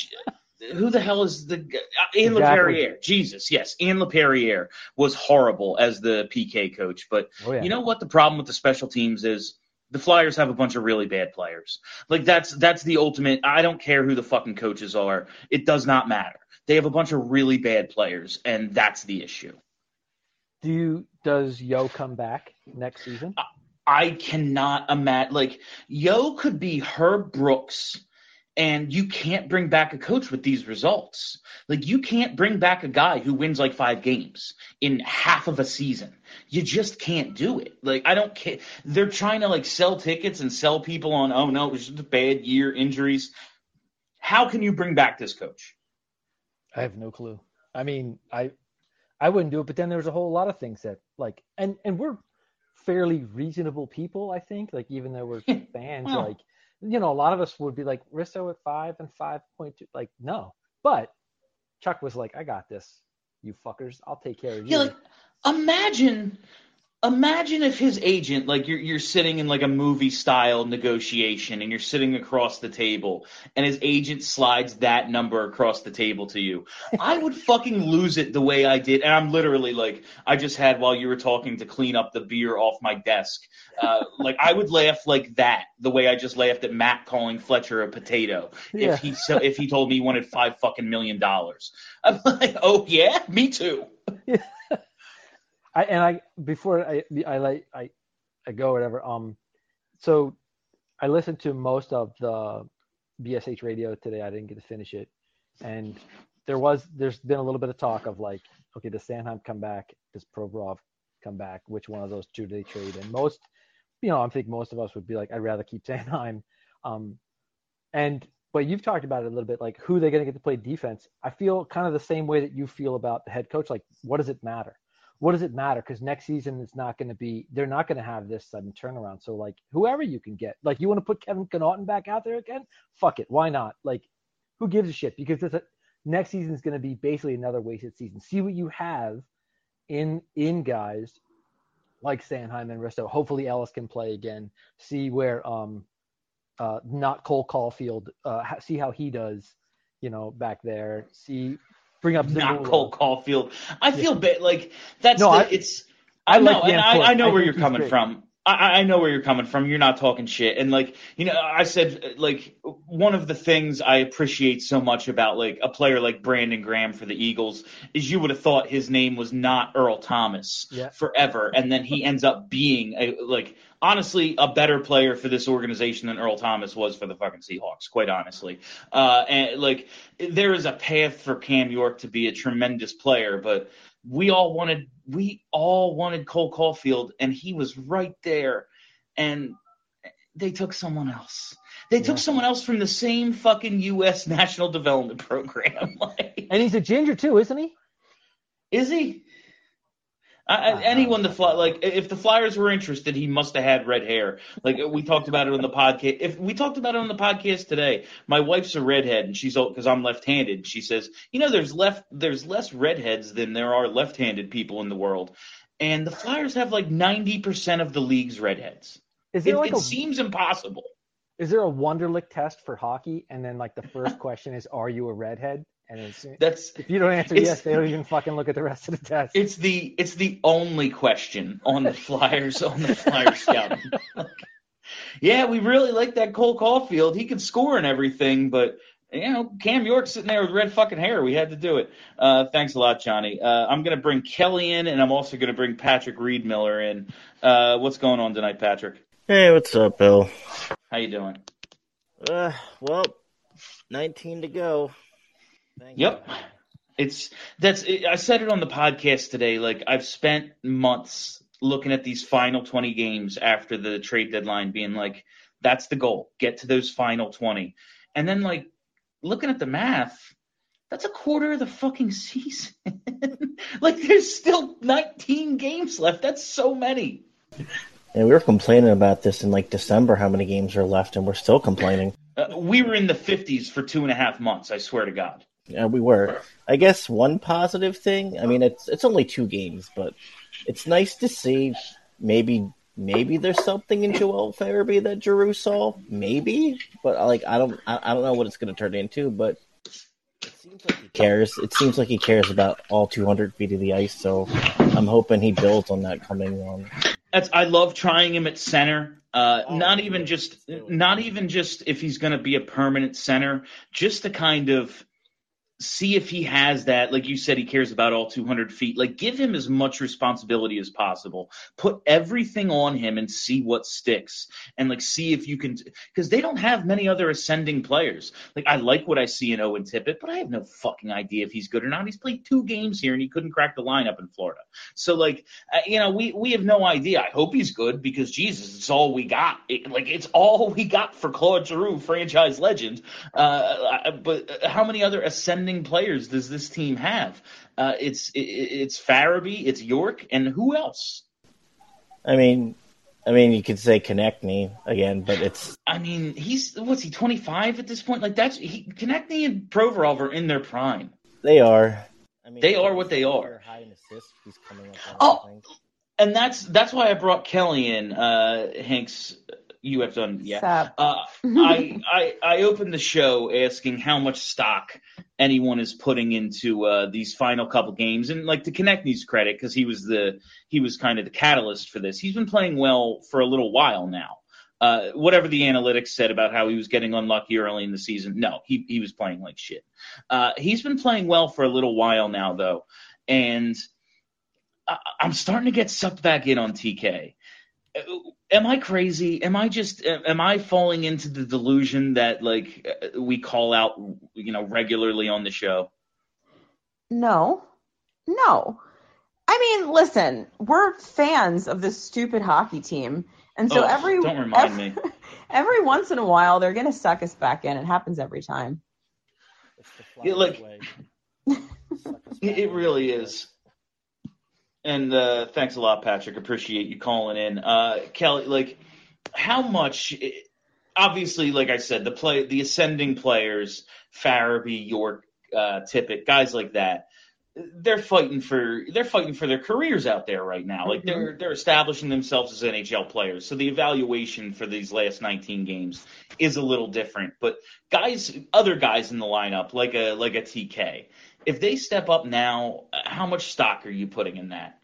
[SPEAKER 3] who the hell is the uh, Ian
[SPEAKER 12] exactly.
[SPEAKER 3] LePerriere? Jesus, yes, Ian LePerriere was horrible as the P K coach. But
[SPEAKER 12] oh, yeah.
[SPEAKER 3] you know what the problem with the special teams is? The Flyers have a bunch of really bad players. Like, that's that's the ultimate. I don't care who the fucking coaches are. It does not matter. They have a bunch of really bad players, and that's the issue.
[SPEAKER 12] Do you, does Yo come back next season?
[SPEAKER 3] I, I cannot imagine. Like, Yo could be Herb Brooks, and you can't bring back a coach with these results. Like, you can't bring back a guy who wins like five games in half of a season. You just can't do it. Like, I don't care. They're trying to, like, sell tickets and sell people on, oh, no, it was just a bad year, injuries. How can you bring back this coach?
[SPEAKER 12] I have no clue. I mean, I I wouldn't do it, but then there's a whole lot of things that, like, and, and we're fairly reasonable people, I think. Like, even though we're fans,
[SPEAKER 3] Well,
[SPEAKER 12] like, you know, a lot of us would be like, Risto at five and five point two. Like, no. But Chuck was like, I got this, you fuckers. I'll take care of you.
[SPEAKER 3] Yeah, like, imagine, imagine if his agent, like, you're you're sitting in like a movie style negotiation, and you're sitting across the table, and his agent slides that number across the table to you. I would fucking lose it the way I did, and I'm literally like, I just had while you were talking to clean up the beer off my desk. Uh, like, I would laugh like that, the way I just laughed at Matt calling Fletcher a potato.
[SPEAKER 12] Yeah.
[SPEAKER 3] If he so, if he told me he wanted five fucking million dollars, I'm like, oh yeah, me too.
[SPEAKER 12] I, and I before I I like I, I go whatever. Um, so I listened to most of the B S H radio today. I didn't get to finish it, and there was there's been a little bit of talk of like, okay, does Sanheim come back? Does Provorov come back? Which one of those two do they trade? And most, you know, I think most of us would be like, I'd rather keep Sanheim. Um, and but you've talked about it a little bit, like who they're going to get to play defense. I feel kind of the same way that you feel about the head coach. Like, what does it matter? What does it matter? Because next season it's not going to be, they're not going to have this sudden turnaround. So, like, whoever you can get, like, you want to put Kevin Connaughton back out there again? Fuck it. Why not? Like, who gives a shit? Because it's a, next season is going to be basically another wasted season. See what you have in in guys like Sanheim and Risto. Hopefully Ellis can play again. See where, um, uh, not Cole Caulfield, uh, see how he does, you know, back there. See, bring up
[SPEAKER 3] Not
[SPEAKER 12] Zabula.
[SPEAKER 3] Cole Caulfield. I feel yeah. bad. Like, that's
[SPEAKER 12] no,
[SPEAKER 3] the,
[SPEAKER 12] I,
[SPEAKER 3] it's.
[SPEAKER 12] I,
[SPEAKER 3] I know,
[SPEAKER 12] like
[SPEAKER 3] and I, I know
[SPEAKER 12] I
[SPEAKER 3] where you're coming
[SPEAKER 12] great.
[SPEAKER 3] from. I, I know where you're coming from. You're not talking shit. And, like, you know, I said, like, one of the things I appreciate so much about, like, a player like Brandon Graham for the Eagles is you would have thought his name was not Earl Thomas
[SPEAKER 12] yeah.
[SPEAKER 3] forever. And then he ends up being, a, like, honestly, a better player for this organization than Earl Thomas was for the fucking Seahawks, quite honestly. Uh, and, like, there is a path for Cam York to be a tremendous player, but we all wanted we all wanted Cole Caulfield, and he was right there, and they took someone else. They took yeah. someone else from the same fucking U S National Development Program. Like,
[SPEAKER 12] and he's a ginger too, isn't he?
[SPEAKER 3] Is he? I, uh, anyone the fly like if the Flyers were interested, he must have had red hair. Like we talked about it on the podcast. If we talked about it on the podcast today, my wife's a redhead, and she's old because I'm left-handed. She says, you know, there's left there's less redheads than there are left-handed people in the world, and the Flyers have like ninety percent of the league's redheads.
[SPEAKER 12] Is there
[SPEAKER 3] it
[SPEAKER 12] like
[SPEAKER 3] it
[SPEAKER 12] a,
[SPEAKER 3] seems impossible.
[SPEAKER 12] Is there a Wonderlic test for hockey, and then like the first question is, are you a redhead? And it's,
[SPEAKER 3] that's
[SPEAKER 12] if you don't answer yes, they don't even fucking look at the rest of the test.
[SPEAKER 3] It's the it's the only question on the Flyers on the Flyers scouting. Like, yeah, we really like that Cole Caulfield. He could score and everything, but you know, Cam York sitting there with red fucking hair. We had to do it. Uh, thanks a lot, Johnny. Uh, I'm gonna bring Kelly in, and I'm also gonna bring Patrick Reed Miller in. Uh, what's going on tonight, Patrick?
[SPEAKER 13] Hey, what's up, Bill?
[SPEAKER 3] How you doing?
[SPEAKER 13] Uh, well, nineteen to go. Thank
[SPEAKER 3] yep.
[SPEAKER 13] you.
[SPEAKER 3] It's that's I said it on the podcast today. Like, I've spent months looking at these final twenty games after the trade deadline, being like, that's the goal. Get to those final twenty. And then, like, looking at the math, that's a quarter of the fucking season. Like, there's still nineteen games left. That's so many.
[SPEAKER 13] And we were complaining about this in like December, how many games are left, and we're still complaining.
[SPEAKER 3] Uh, we were in the fifties for two and a half months, I swear to God.
[SPEAKER 13] Yeah, we were. I guess one positive thing, I mean, it's it's only two games, but it's nice to see maybe maybe there's something in Joel Farabee that Giroux saw, maybe, but like I don't I, I don't know what it's going to turn into, but it seems like he cares. It seems like he cares about all two hundred feet of the ice, so I'm hoping he builds on that coming on.
[SPEAKER 3] That's I love trying him at center. Uh, Uh, oh, not even just, not even just if he's going to be a permanent center, just to kind of see if he has that. Like you said, he cares about all two hundred feet. Like, give him as much responsibility as possible. Put everything on him and see what sticks. And like, see if you can, because they don't have many other ascending players. Like, I like what I see in Owen Tippett, but I have no fucking idea if he's good or not. He's played two games here and he couldn't crack the lineup in Florida. So like, uh, you know, we we have no idea. I hope he's good because Jesus, it's all we got. It, like, it's all we got for Claude Giroux, franchise legend. Uh, but how many other ascending players does this team have? Uh, it's it, it's Farabee, it's York, and who else?
[SPEAKER 13] I mean, I mean, you could say Konechny again, but it's.
[SPEAKER 3] I mean, he's what's he twenty-five at this point? Like that's he, Konechny and Provorov are in their prime.
[SPEAKER 13] They are. I mean,
[SPEAKER 3] they are what they are.
[SPEAKER 13] High in assists, he's coming up
[SPEAKER 3] oh, and that's that's why I brought Kelly in. Uh, Hanks. You have done, yeah. Uh, I, I I opened the show asking how much stock anyone is putting into uh, these final couple games, and like to Konechny's credit, because he was the he was kind of the catalyst for this. He's been playing well for a little while now. Uh, whatever the analytics said about how he was getting unlucky early in the season, no, he he was playing like shit. Uh, he's been playing well for a little while now, though, and I, I'm starting to get sucked back in on T K. Am I crazy? Am I just am I falling into the delusion that like we call out, you know, regularly on the show?
[SPEAKER 14] No, no. I mean, listen, we're fans of this stupid hockey team, and so
[SPEAKER 3] oh,
[SPEAKER 14] every
[SPEAKER 3] don't remind
[SPEAKER 14] every,
[SPEAKER 3] me.
[SPEAKER 14] every once in a while they're gonna suck us back in. It happens every time.
[SPEAKER 3] Yeah, like it, it really is. And uh, thanks a lot, Patrick. Appreciate you calling in. Uh, Kelly, like, how much? Obviously, like I said, the play, the ascending players, Farabee, York, uh, Tippett, guys like that, they're fighting for they're fighting for their careers out there right now. Like they're they're establishing themselves as N H L players. So the evaluation for these last nineteen games is a little different. But guys, other guys in the lineup, like a like a T K, if they step up now, how much stock are you putting in that?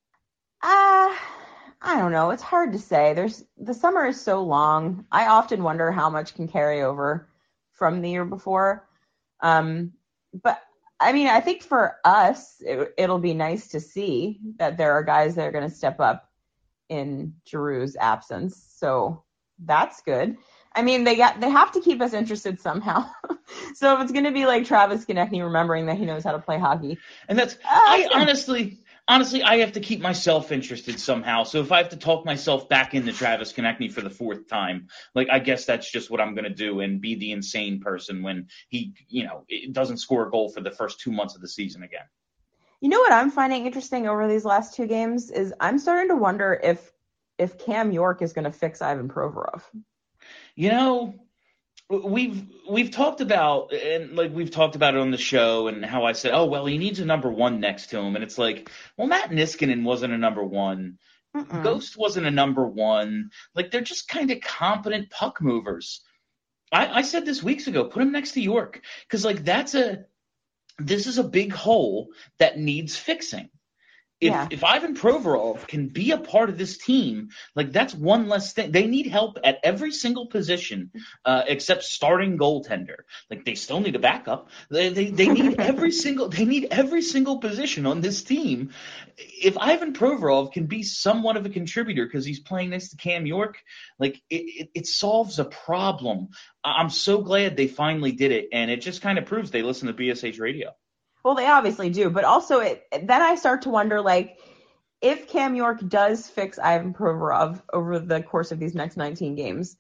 [SPEAKER 14] Uh, I don't know. It's hard to say. There's the summer is so long. I often wonder how much can carry over from the year before. Um, but I mean, I think for us, it, it'll be nice to see that there are guys that are going to step up in Giroux's absence. So that's good. I mean, they got they have to keep us interested somehow. So if it's going to be like Travis Konechny remembering that he knows how to play hockey,
[SPEAKER 3] and that's uh, I yeah. honestly. Honestly, I have to keep myself interested somehow. So if I have to talk myself back into Travis Konechny for the fourth time, like I guess that's just what I'm going to do and be the insane person when he, you know, doesn't score a goal for the first two months of the season again.
[SPEAKER 14] You know what I'm finding interesting over these last two games is I'm starting to wonder if if Cam York is going to fix Ivan Provorov.
[SPEAKER 3] You know, We've we've talked about and like we've talked about it on the show and how I said, oh well, he needs a number one next to him, and it's like, well, Matt Niskanen wasn't a number one, Mm-mm. Ghost wasn't a number one. Like they're just kind of competent puck movers. I, I said this weeks ago, put him next to York because like that's a this is a big hole that needs fixing. If yeah. if Ivan Provorov can be a part of this team, like that's one less thing. They need help at every single position uh, except starting goaltender. Like they still need a backup. They they, they need every single they need every single position on this team. If Ivan Provorov can be somewhat of a contributor because he's playing next to Cam York, like it, it, it solves a problem. I'm so glad they finally did it, and it just kind of proves they listen to B S H Radio.
[SPEAKER 14] Well, they obviously do, but also it, then I start to wonder, like, if Cam York does fix Ivan Provorov over the course of these next nineteen games,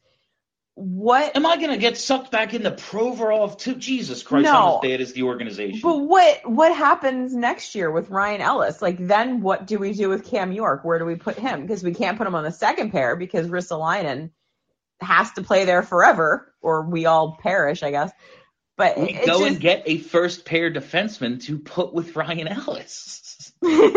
[SPEAKER 14] what
[SPEAKER 3] am I going to get sucked back into Provorov too? Jesus Christ,
[SPEAKER 14] no.
[SPEAKER 3] I'm as bad as the organization.
[SPEAKER 14] But what what happens next year with Ryan Ellis? Like, then what do we do with Cam York? Where do we put him? Because we can't put him on the second pair because Ristolainen has to play there forever, or we all perish, I guess. But
[SPEAKER 3] we go just... and get a first pair defenseman to put with Ryan Ellis.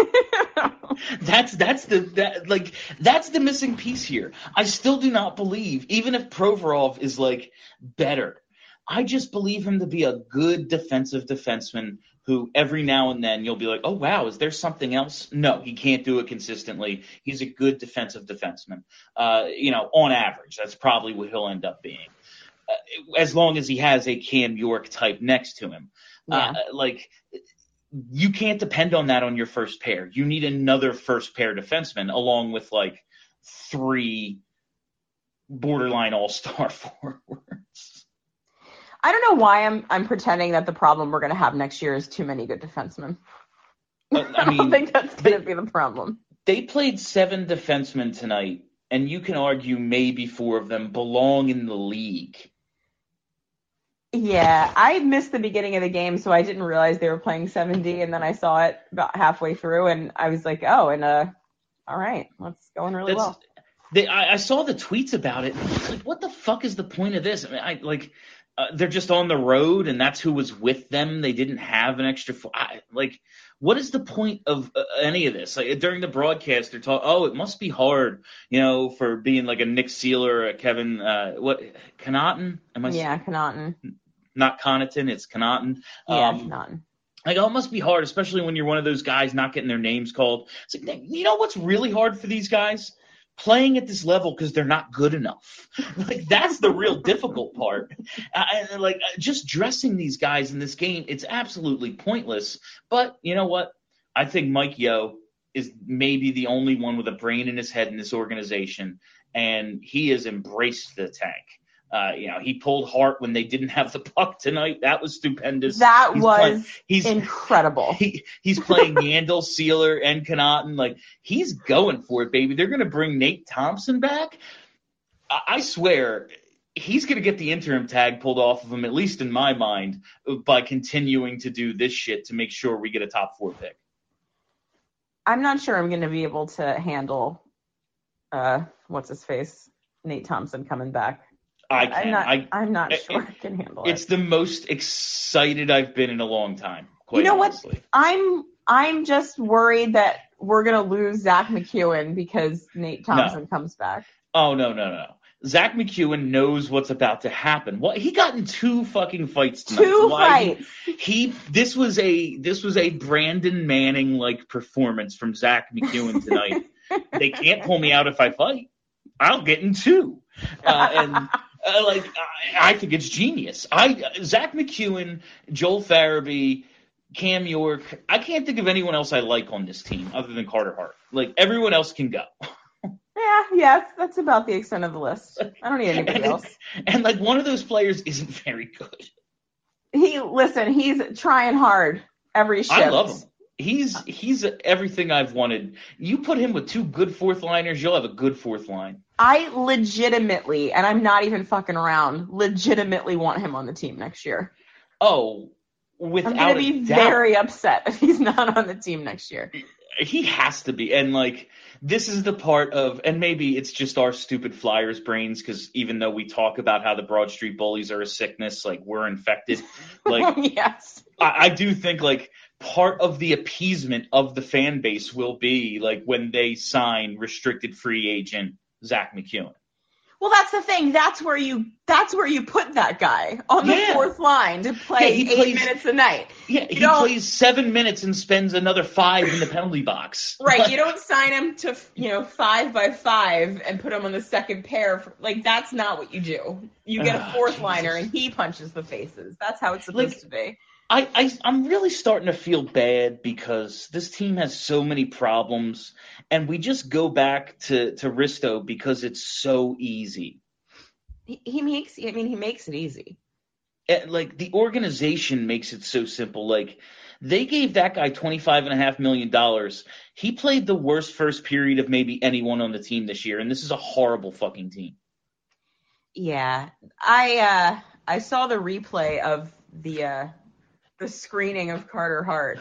[SPEAKER 3] that's that's the that, like that's the missing piece here. I still do not believe, even if Provorov is like better, I just believe him to be a good defensive defenseman who every now and then you'll be like, oh, wow, is there something else? No, he can't do it consistently. He's a good defensive defenseman. Uh, you know, on average, that's probably what he'll end up being. Uh, as long as he has a Cam York type next to him. Yeah. Uh, like, you can't depend on that on your first pair. You need another first pair defenseman along with, like, three borderline all-star forwards.
[SPEAKER 14] I don't know why I'm I'm pretending that the problem we're going to have next year is too many good defensemen. Uh, I, I mean, don't think that's going to be the problem.
[SPEAKER 3] They played seven defensemen tonight, and you can argue maybe four of them belong in the league.
[SPEAKER 14] Yeah, I missed the beginning of the game, so I didn't realize they were playing seventy, and then I saw it about halfway through, and I was like, oh, and uh, all right, that's going really that's, well.
[SPEAKER 3] They, I, I saw the tweets about it. Like, what the fuck is the point of this? I mean, I like. Uh, they're just on the road, and that's who was with them. They didn't have an extra – I, like, what is the point of uh, any of this? Like, during the broadcast, they're talking, oh, it must be hard, you know, for being like a Nick Seeler or a Kevin uh, – what – Connaughton? Am I
[SPEAKER 14] yeah, Connaughton.
[SPEAKER 3] Not Connaughton, it's Connaughton.
[SPEAKER 14] Yeah,
[SPEAKER 3] um,
[SPEAKER 14] Connaughton.
[SPEAKER 3] Like, oh, it must be hard, especially when you're one of those guys not getting their names called. It's like, you know what's really hard for these guys? Playing at this level because they're not good enough. Like, that's the real difficult part. Uh, and like, just dressing these guys in this game, it's absolutely pointless. But you know what? I think Mike Yeo is maybe the only one with a brain in his head in this organization, and he has embraced the tank. Uh, you know, he pulled Hart when they didn't have the puck tonight. That was stupendous.
[SPEAKER 14] That
[SPEAKER 3] he's
[SPEAKER 14] was
[SPEAKER 3] playing, he's,
[SPEAKER 14] incredible.
[SPEAKER 3] He, he's playing Yandel, Seeler, and Connaughton. Like, he's going for it, baby. They're going to bring Nate Thompson back. I, I swear, he's going to get the interim tag pulled off of him, at least in my mind, by continuing to do this shit to make sure we get a top four pick.
[SPEAKER 14] I'm not sure I'm going to be able to handle, uh, what's his face, Nate Thompson coming back.
[SPEAKER 3] I can.
[SPEAKER 14] I'm not,
[SPEAKER 3] I,
[SPEAKER 14] I'm not
[SPEAKER 3] it,
[SPEAKER 14] sure I can handle
[SPEAKER 3] it's it. It's the most excited I've been in a long time. Quite
[SPEAKER 14] you know
[SPEAKER 3] honestly.
[SPEAKER 14] what? I'm I'm just worried that we're gonna lose Zach McEwen because Nate Thompson
[SPEAKER 3] no.
[SPEAKER 14] comes back.
[SPEAKER 3] Oh no no no! Zach McEwen knows what's about to happen. What he got in two fucking fights tonight.
[SPEAKER 14] Two
[SPEAKER 3] Why
[SPEAKER 14] fights.
[SPEAKER 3] He, he this was a this was a Brandon Manning like performance from Zach McEwen tonight. They can't pull me out if I fight. I'll get in two. Uh, and. Uh, like I, I think it's genius. I Zach McEwen, Joel Farabee, Cam York. I can't think of anyone else I like on this team other than Carter Hart. Like, everyone else can go.
[SPEAKER 14] Yeah, yeah, that's about the extent of the list. I don't need anybody
[SPEAKER 3] and,
[SPEAKER 14] else.
[SPEAKER 3] And like, one of those players isn't very good.
[SPEAKER 14] He listen. He's trying hard every shift.
[SPEAKER 3] I love him. He's he's everything I've wanted. You put him with two good fourth liners, you'll have a good fourth line.
[SPEAKER 14] I legitimately, and I'm not even fucking around, legitimately want him on the team next year.
[SPEAKER 3] Oh, without
[SPEAKER 14] I'm going to be
[SPEAKER 3] doubt.
[SPEAKER 14] very upset if he's not on the team next year.
[SPEAKER 3] He has to be. And, like, this is the part of, and maybe it's just our stupid Flyers brains, because even though we talk about how the Broad Street Bullies are a sickness, like, we're infected. Like,
[SPEAKER 14] yes.
[SPEAKER 3] I, I do think, like, part of the appeasement of the fan base will be, like, when they sign restricted free agent Zach McEwen.
[SPEAKER 14] Well, that's the thing. That's where you that's where you put that guy on the
[SPEAKER 3] yeah.
[SPEAKER 14] fourth line to play
[SPEAKER 3] yeah,
[SPEAKER 14] eight
[SPEAKER 3] plays,
[SPEAKER 14] minutes a night.
[SPEAKER 3] Yeah,
[SPEAKER 14] you
[SPEAKER 3] he
[SPEAKER 14] don't,
[SPEAKER 3] plays seven minutes and spends another five in the penalty box.
[SPEAKER 14] Right. You don't sign him to, you know, five by five and put him on the second pair. For, like, that's not what you do. You get a fourth oh, liner and he punches the faces. That's how it's supposed like, to be.
[SPEAKER 3] I, I, I'm really starting to feel bad because this team has so many problems, and we just go back to, to Risto because it's so easy.
[SPEAKER 14] He, he makes, I mean, he makes it easy.
[SPEAKER 3] And, like, the organization makes it so simple. Like, they gave that guy twenty-five point five million dollars. He played the worst first period of maybe anyone on the team this year, and this is a horrible fucking team.
[SPEAKER 14] Yeah. I, uh, I saw the replay of the, uh, the screening of Carter Hart.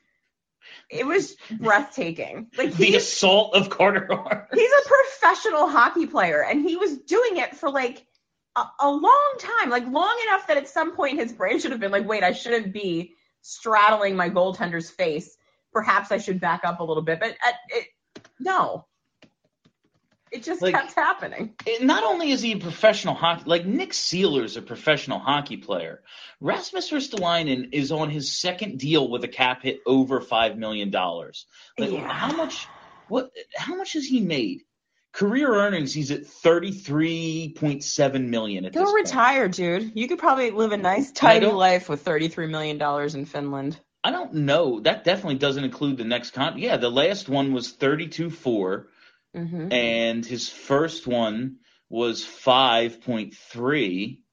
[SPEAKER 14] It was breathtaking. Like
[SPEAKER 3] the assault of Carter Hart.
[SPEAKER 14] He's a professional hockey player, and he was doing it for like a, a long time, like long enough that at some point his brain should have been like, wait, I shouldn't be straddling my goaltender's face. Perhaps I should back up a little bit. But at, it, no. It just
[SPEAKER 3] Like,
[SPEAKER 14] kept happening.
[SPEAKER 3] it- not only is he a professional hockey, like Nick Seeler's a professional hockey player. Rasmus Ristolainen is on his second deal with a cap hit over five million dollars. Like,
[SPEAKER 14] Yeah.
[SPEAKER 3] how much? What? How much has he made? Career earnings, he's at thirty-three point seven million at
[SPEAKER 14] Go
[SPEAKER 3] this point.
[SPEAKER 14] retire, dude. You could probably live a nice,
[SPEAKER 3] I
[SPEAKER 14] tidy
[SPEAKER 3] don't-
[SPEAKER 14] life with thirty-three million dollars in Finland.
[SPEAKER 3] I don't know. That definitely doesn't include the next con. Yeah, the last one was thirty-two four,
[SPEAKER 14] Mm-hmm.
[SPEAKER 3] and his first one was five point three.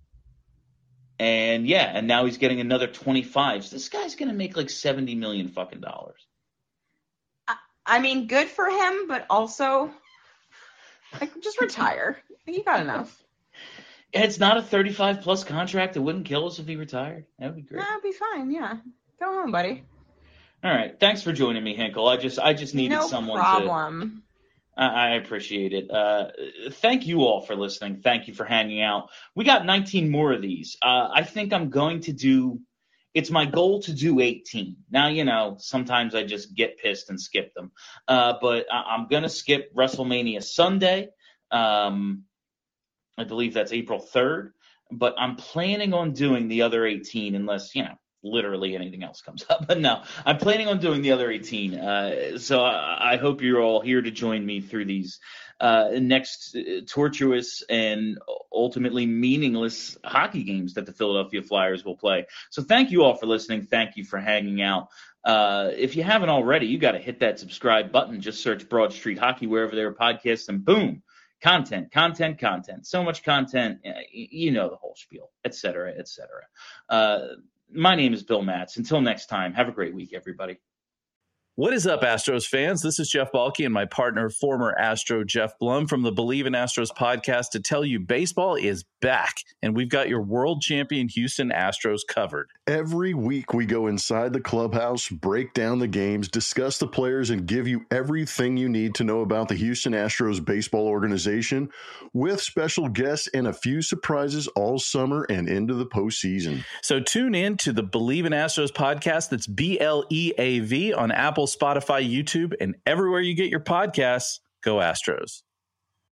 [SPEAKER 3] And yeah, and now he's getting another twenty-five. So this guy's gonna make like seventy million fucking dollars.
[SPEAKER 14] I mean, good for him, but also, like, just retire. You got enough.
[SPEAKER 3] It's not a thirty-five plus contract. It wouldn't kill us if he retired. That would be great.
[SPEAKER 14] That'll be fine. Yeah, go home, buddy.
[SPEAKER 3] All right, thanks for joining me, Hinkle. I just I just needed
[SPEAKER 14] No
[SPEAKER 3] someone
[SPEAKER 14] problem.
[SPEAKER 3] to. I, I appreciate it. Uh, thank you all for listening. Thank you for hanging out. We got nineteen more of these. Uh, I think I'm going to do. It's my goal to do eighteen. Now, you know, sometimes I just get pissed and skip them. Uh, but I, I'm going to skip WrestleMania Sunday. Um, I believe that's April third. But I'm planning on doing the other eighteen unless, you know, literally anything else comes up. But no, I'm planning on doing the other eighteen. Uh, so I, I hope you're all here to join me through these uh, next uh, tortuous and ultimately meaningless hockey games that the Philadelphia Flyers will play. So thank you all for listening. Thank you for hanging out. Uh, if you haven't already, you got to hit that subscribe button. Just search Broad Street Hockey wherever there are podcasts, and boom, content, content, content. So much content, uh, you know the whole spiel, et cetera, et cetera. Uh, my name is Bill Matz. Until next time, have a great week, everybody.
[SPEAKER 15] What is up, Astros fans? This is Jeff Balke and my partner, former Astro Jeff Blum from the Believe in Astros podcast to tell you baseball is back, and we've got your world champion Houston Astros covered.
[SPEAKER 16] Every week we go inside the clubhouse, break down the games, discuss the players, and give you everything you need to know about the Houston Astros baseball organization with special guests and a few surprises all summer and into the postseason.
[SPEAKER 15] So tune in to the Believe in Astros podcast. That's B L E A V on Apple, Spotify, YouTube, and everywhere you get your podcasts. Go Astros.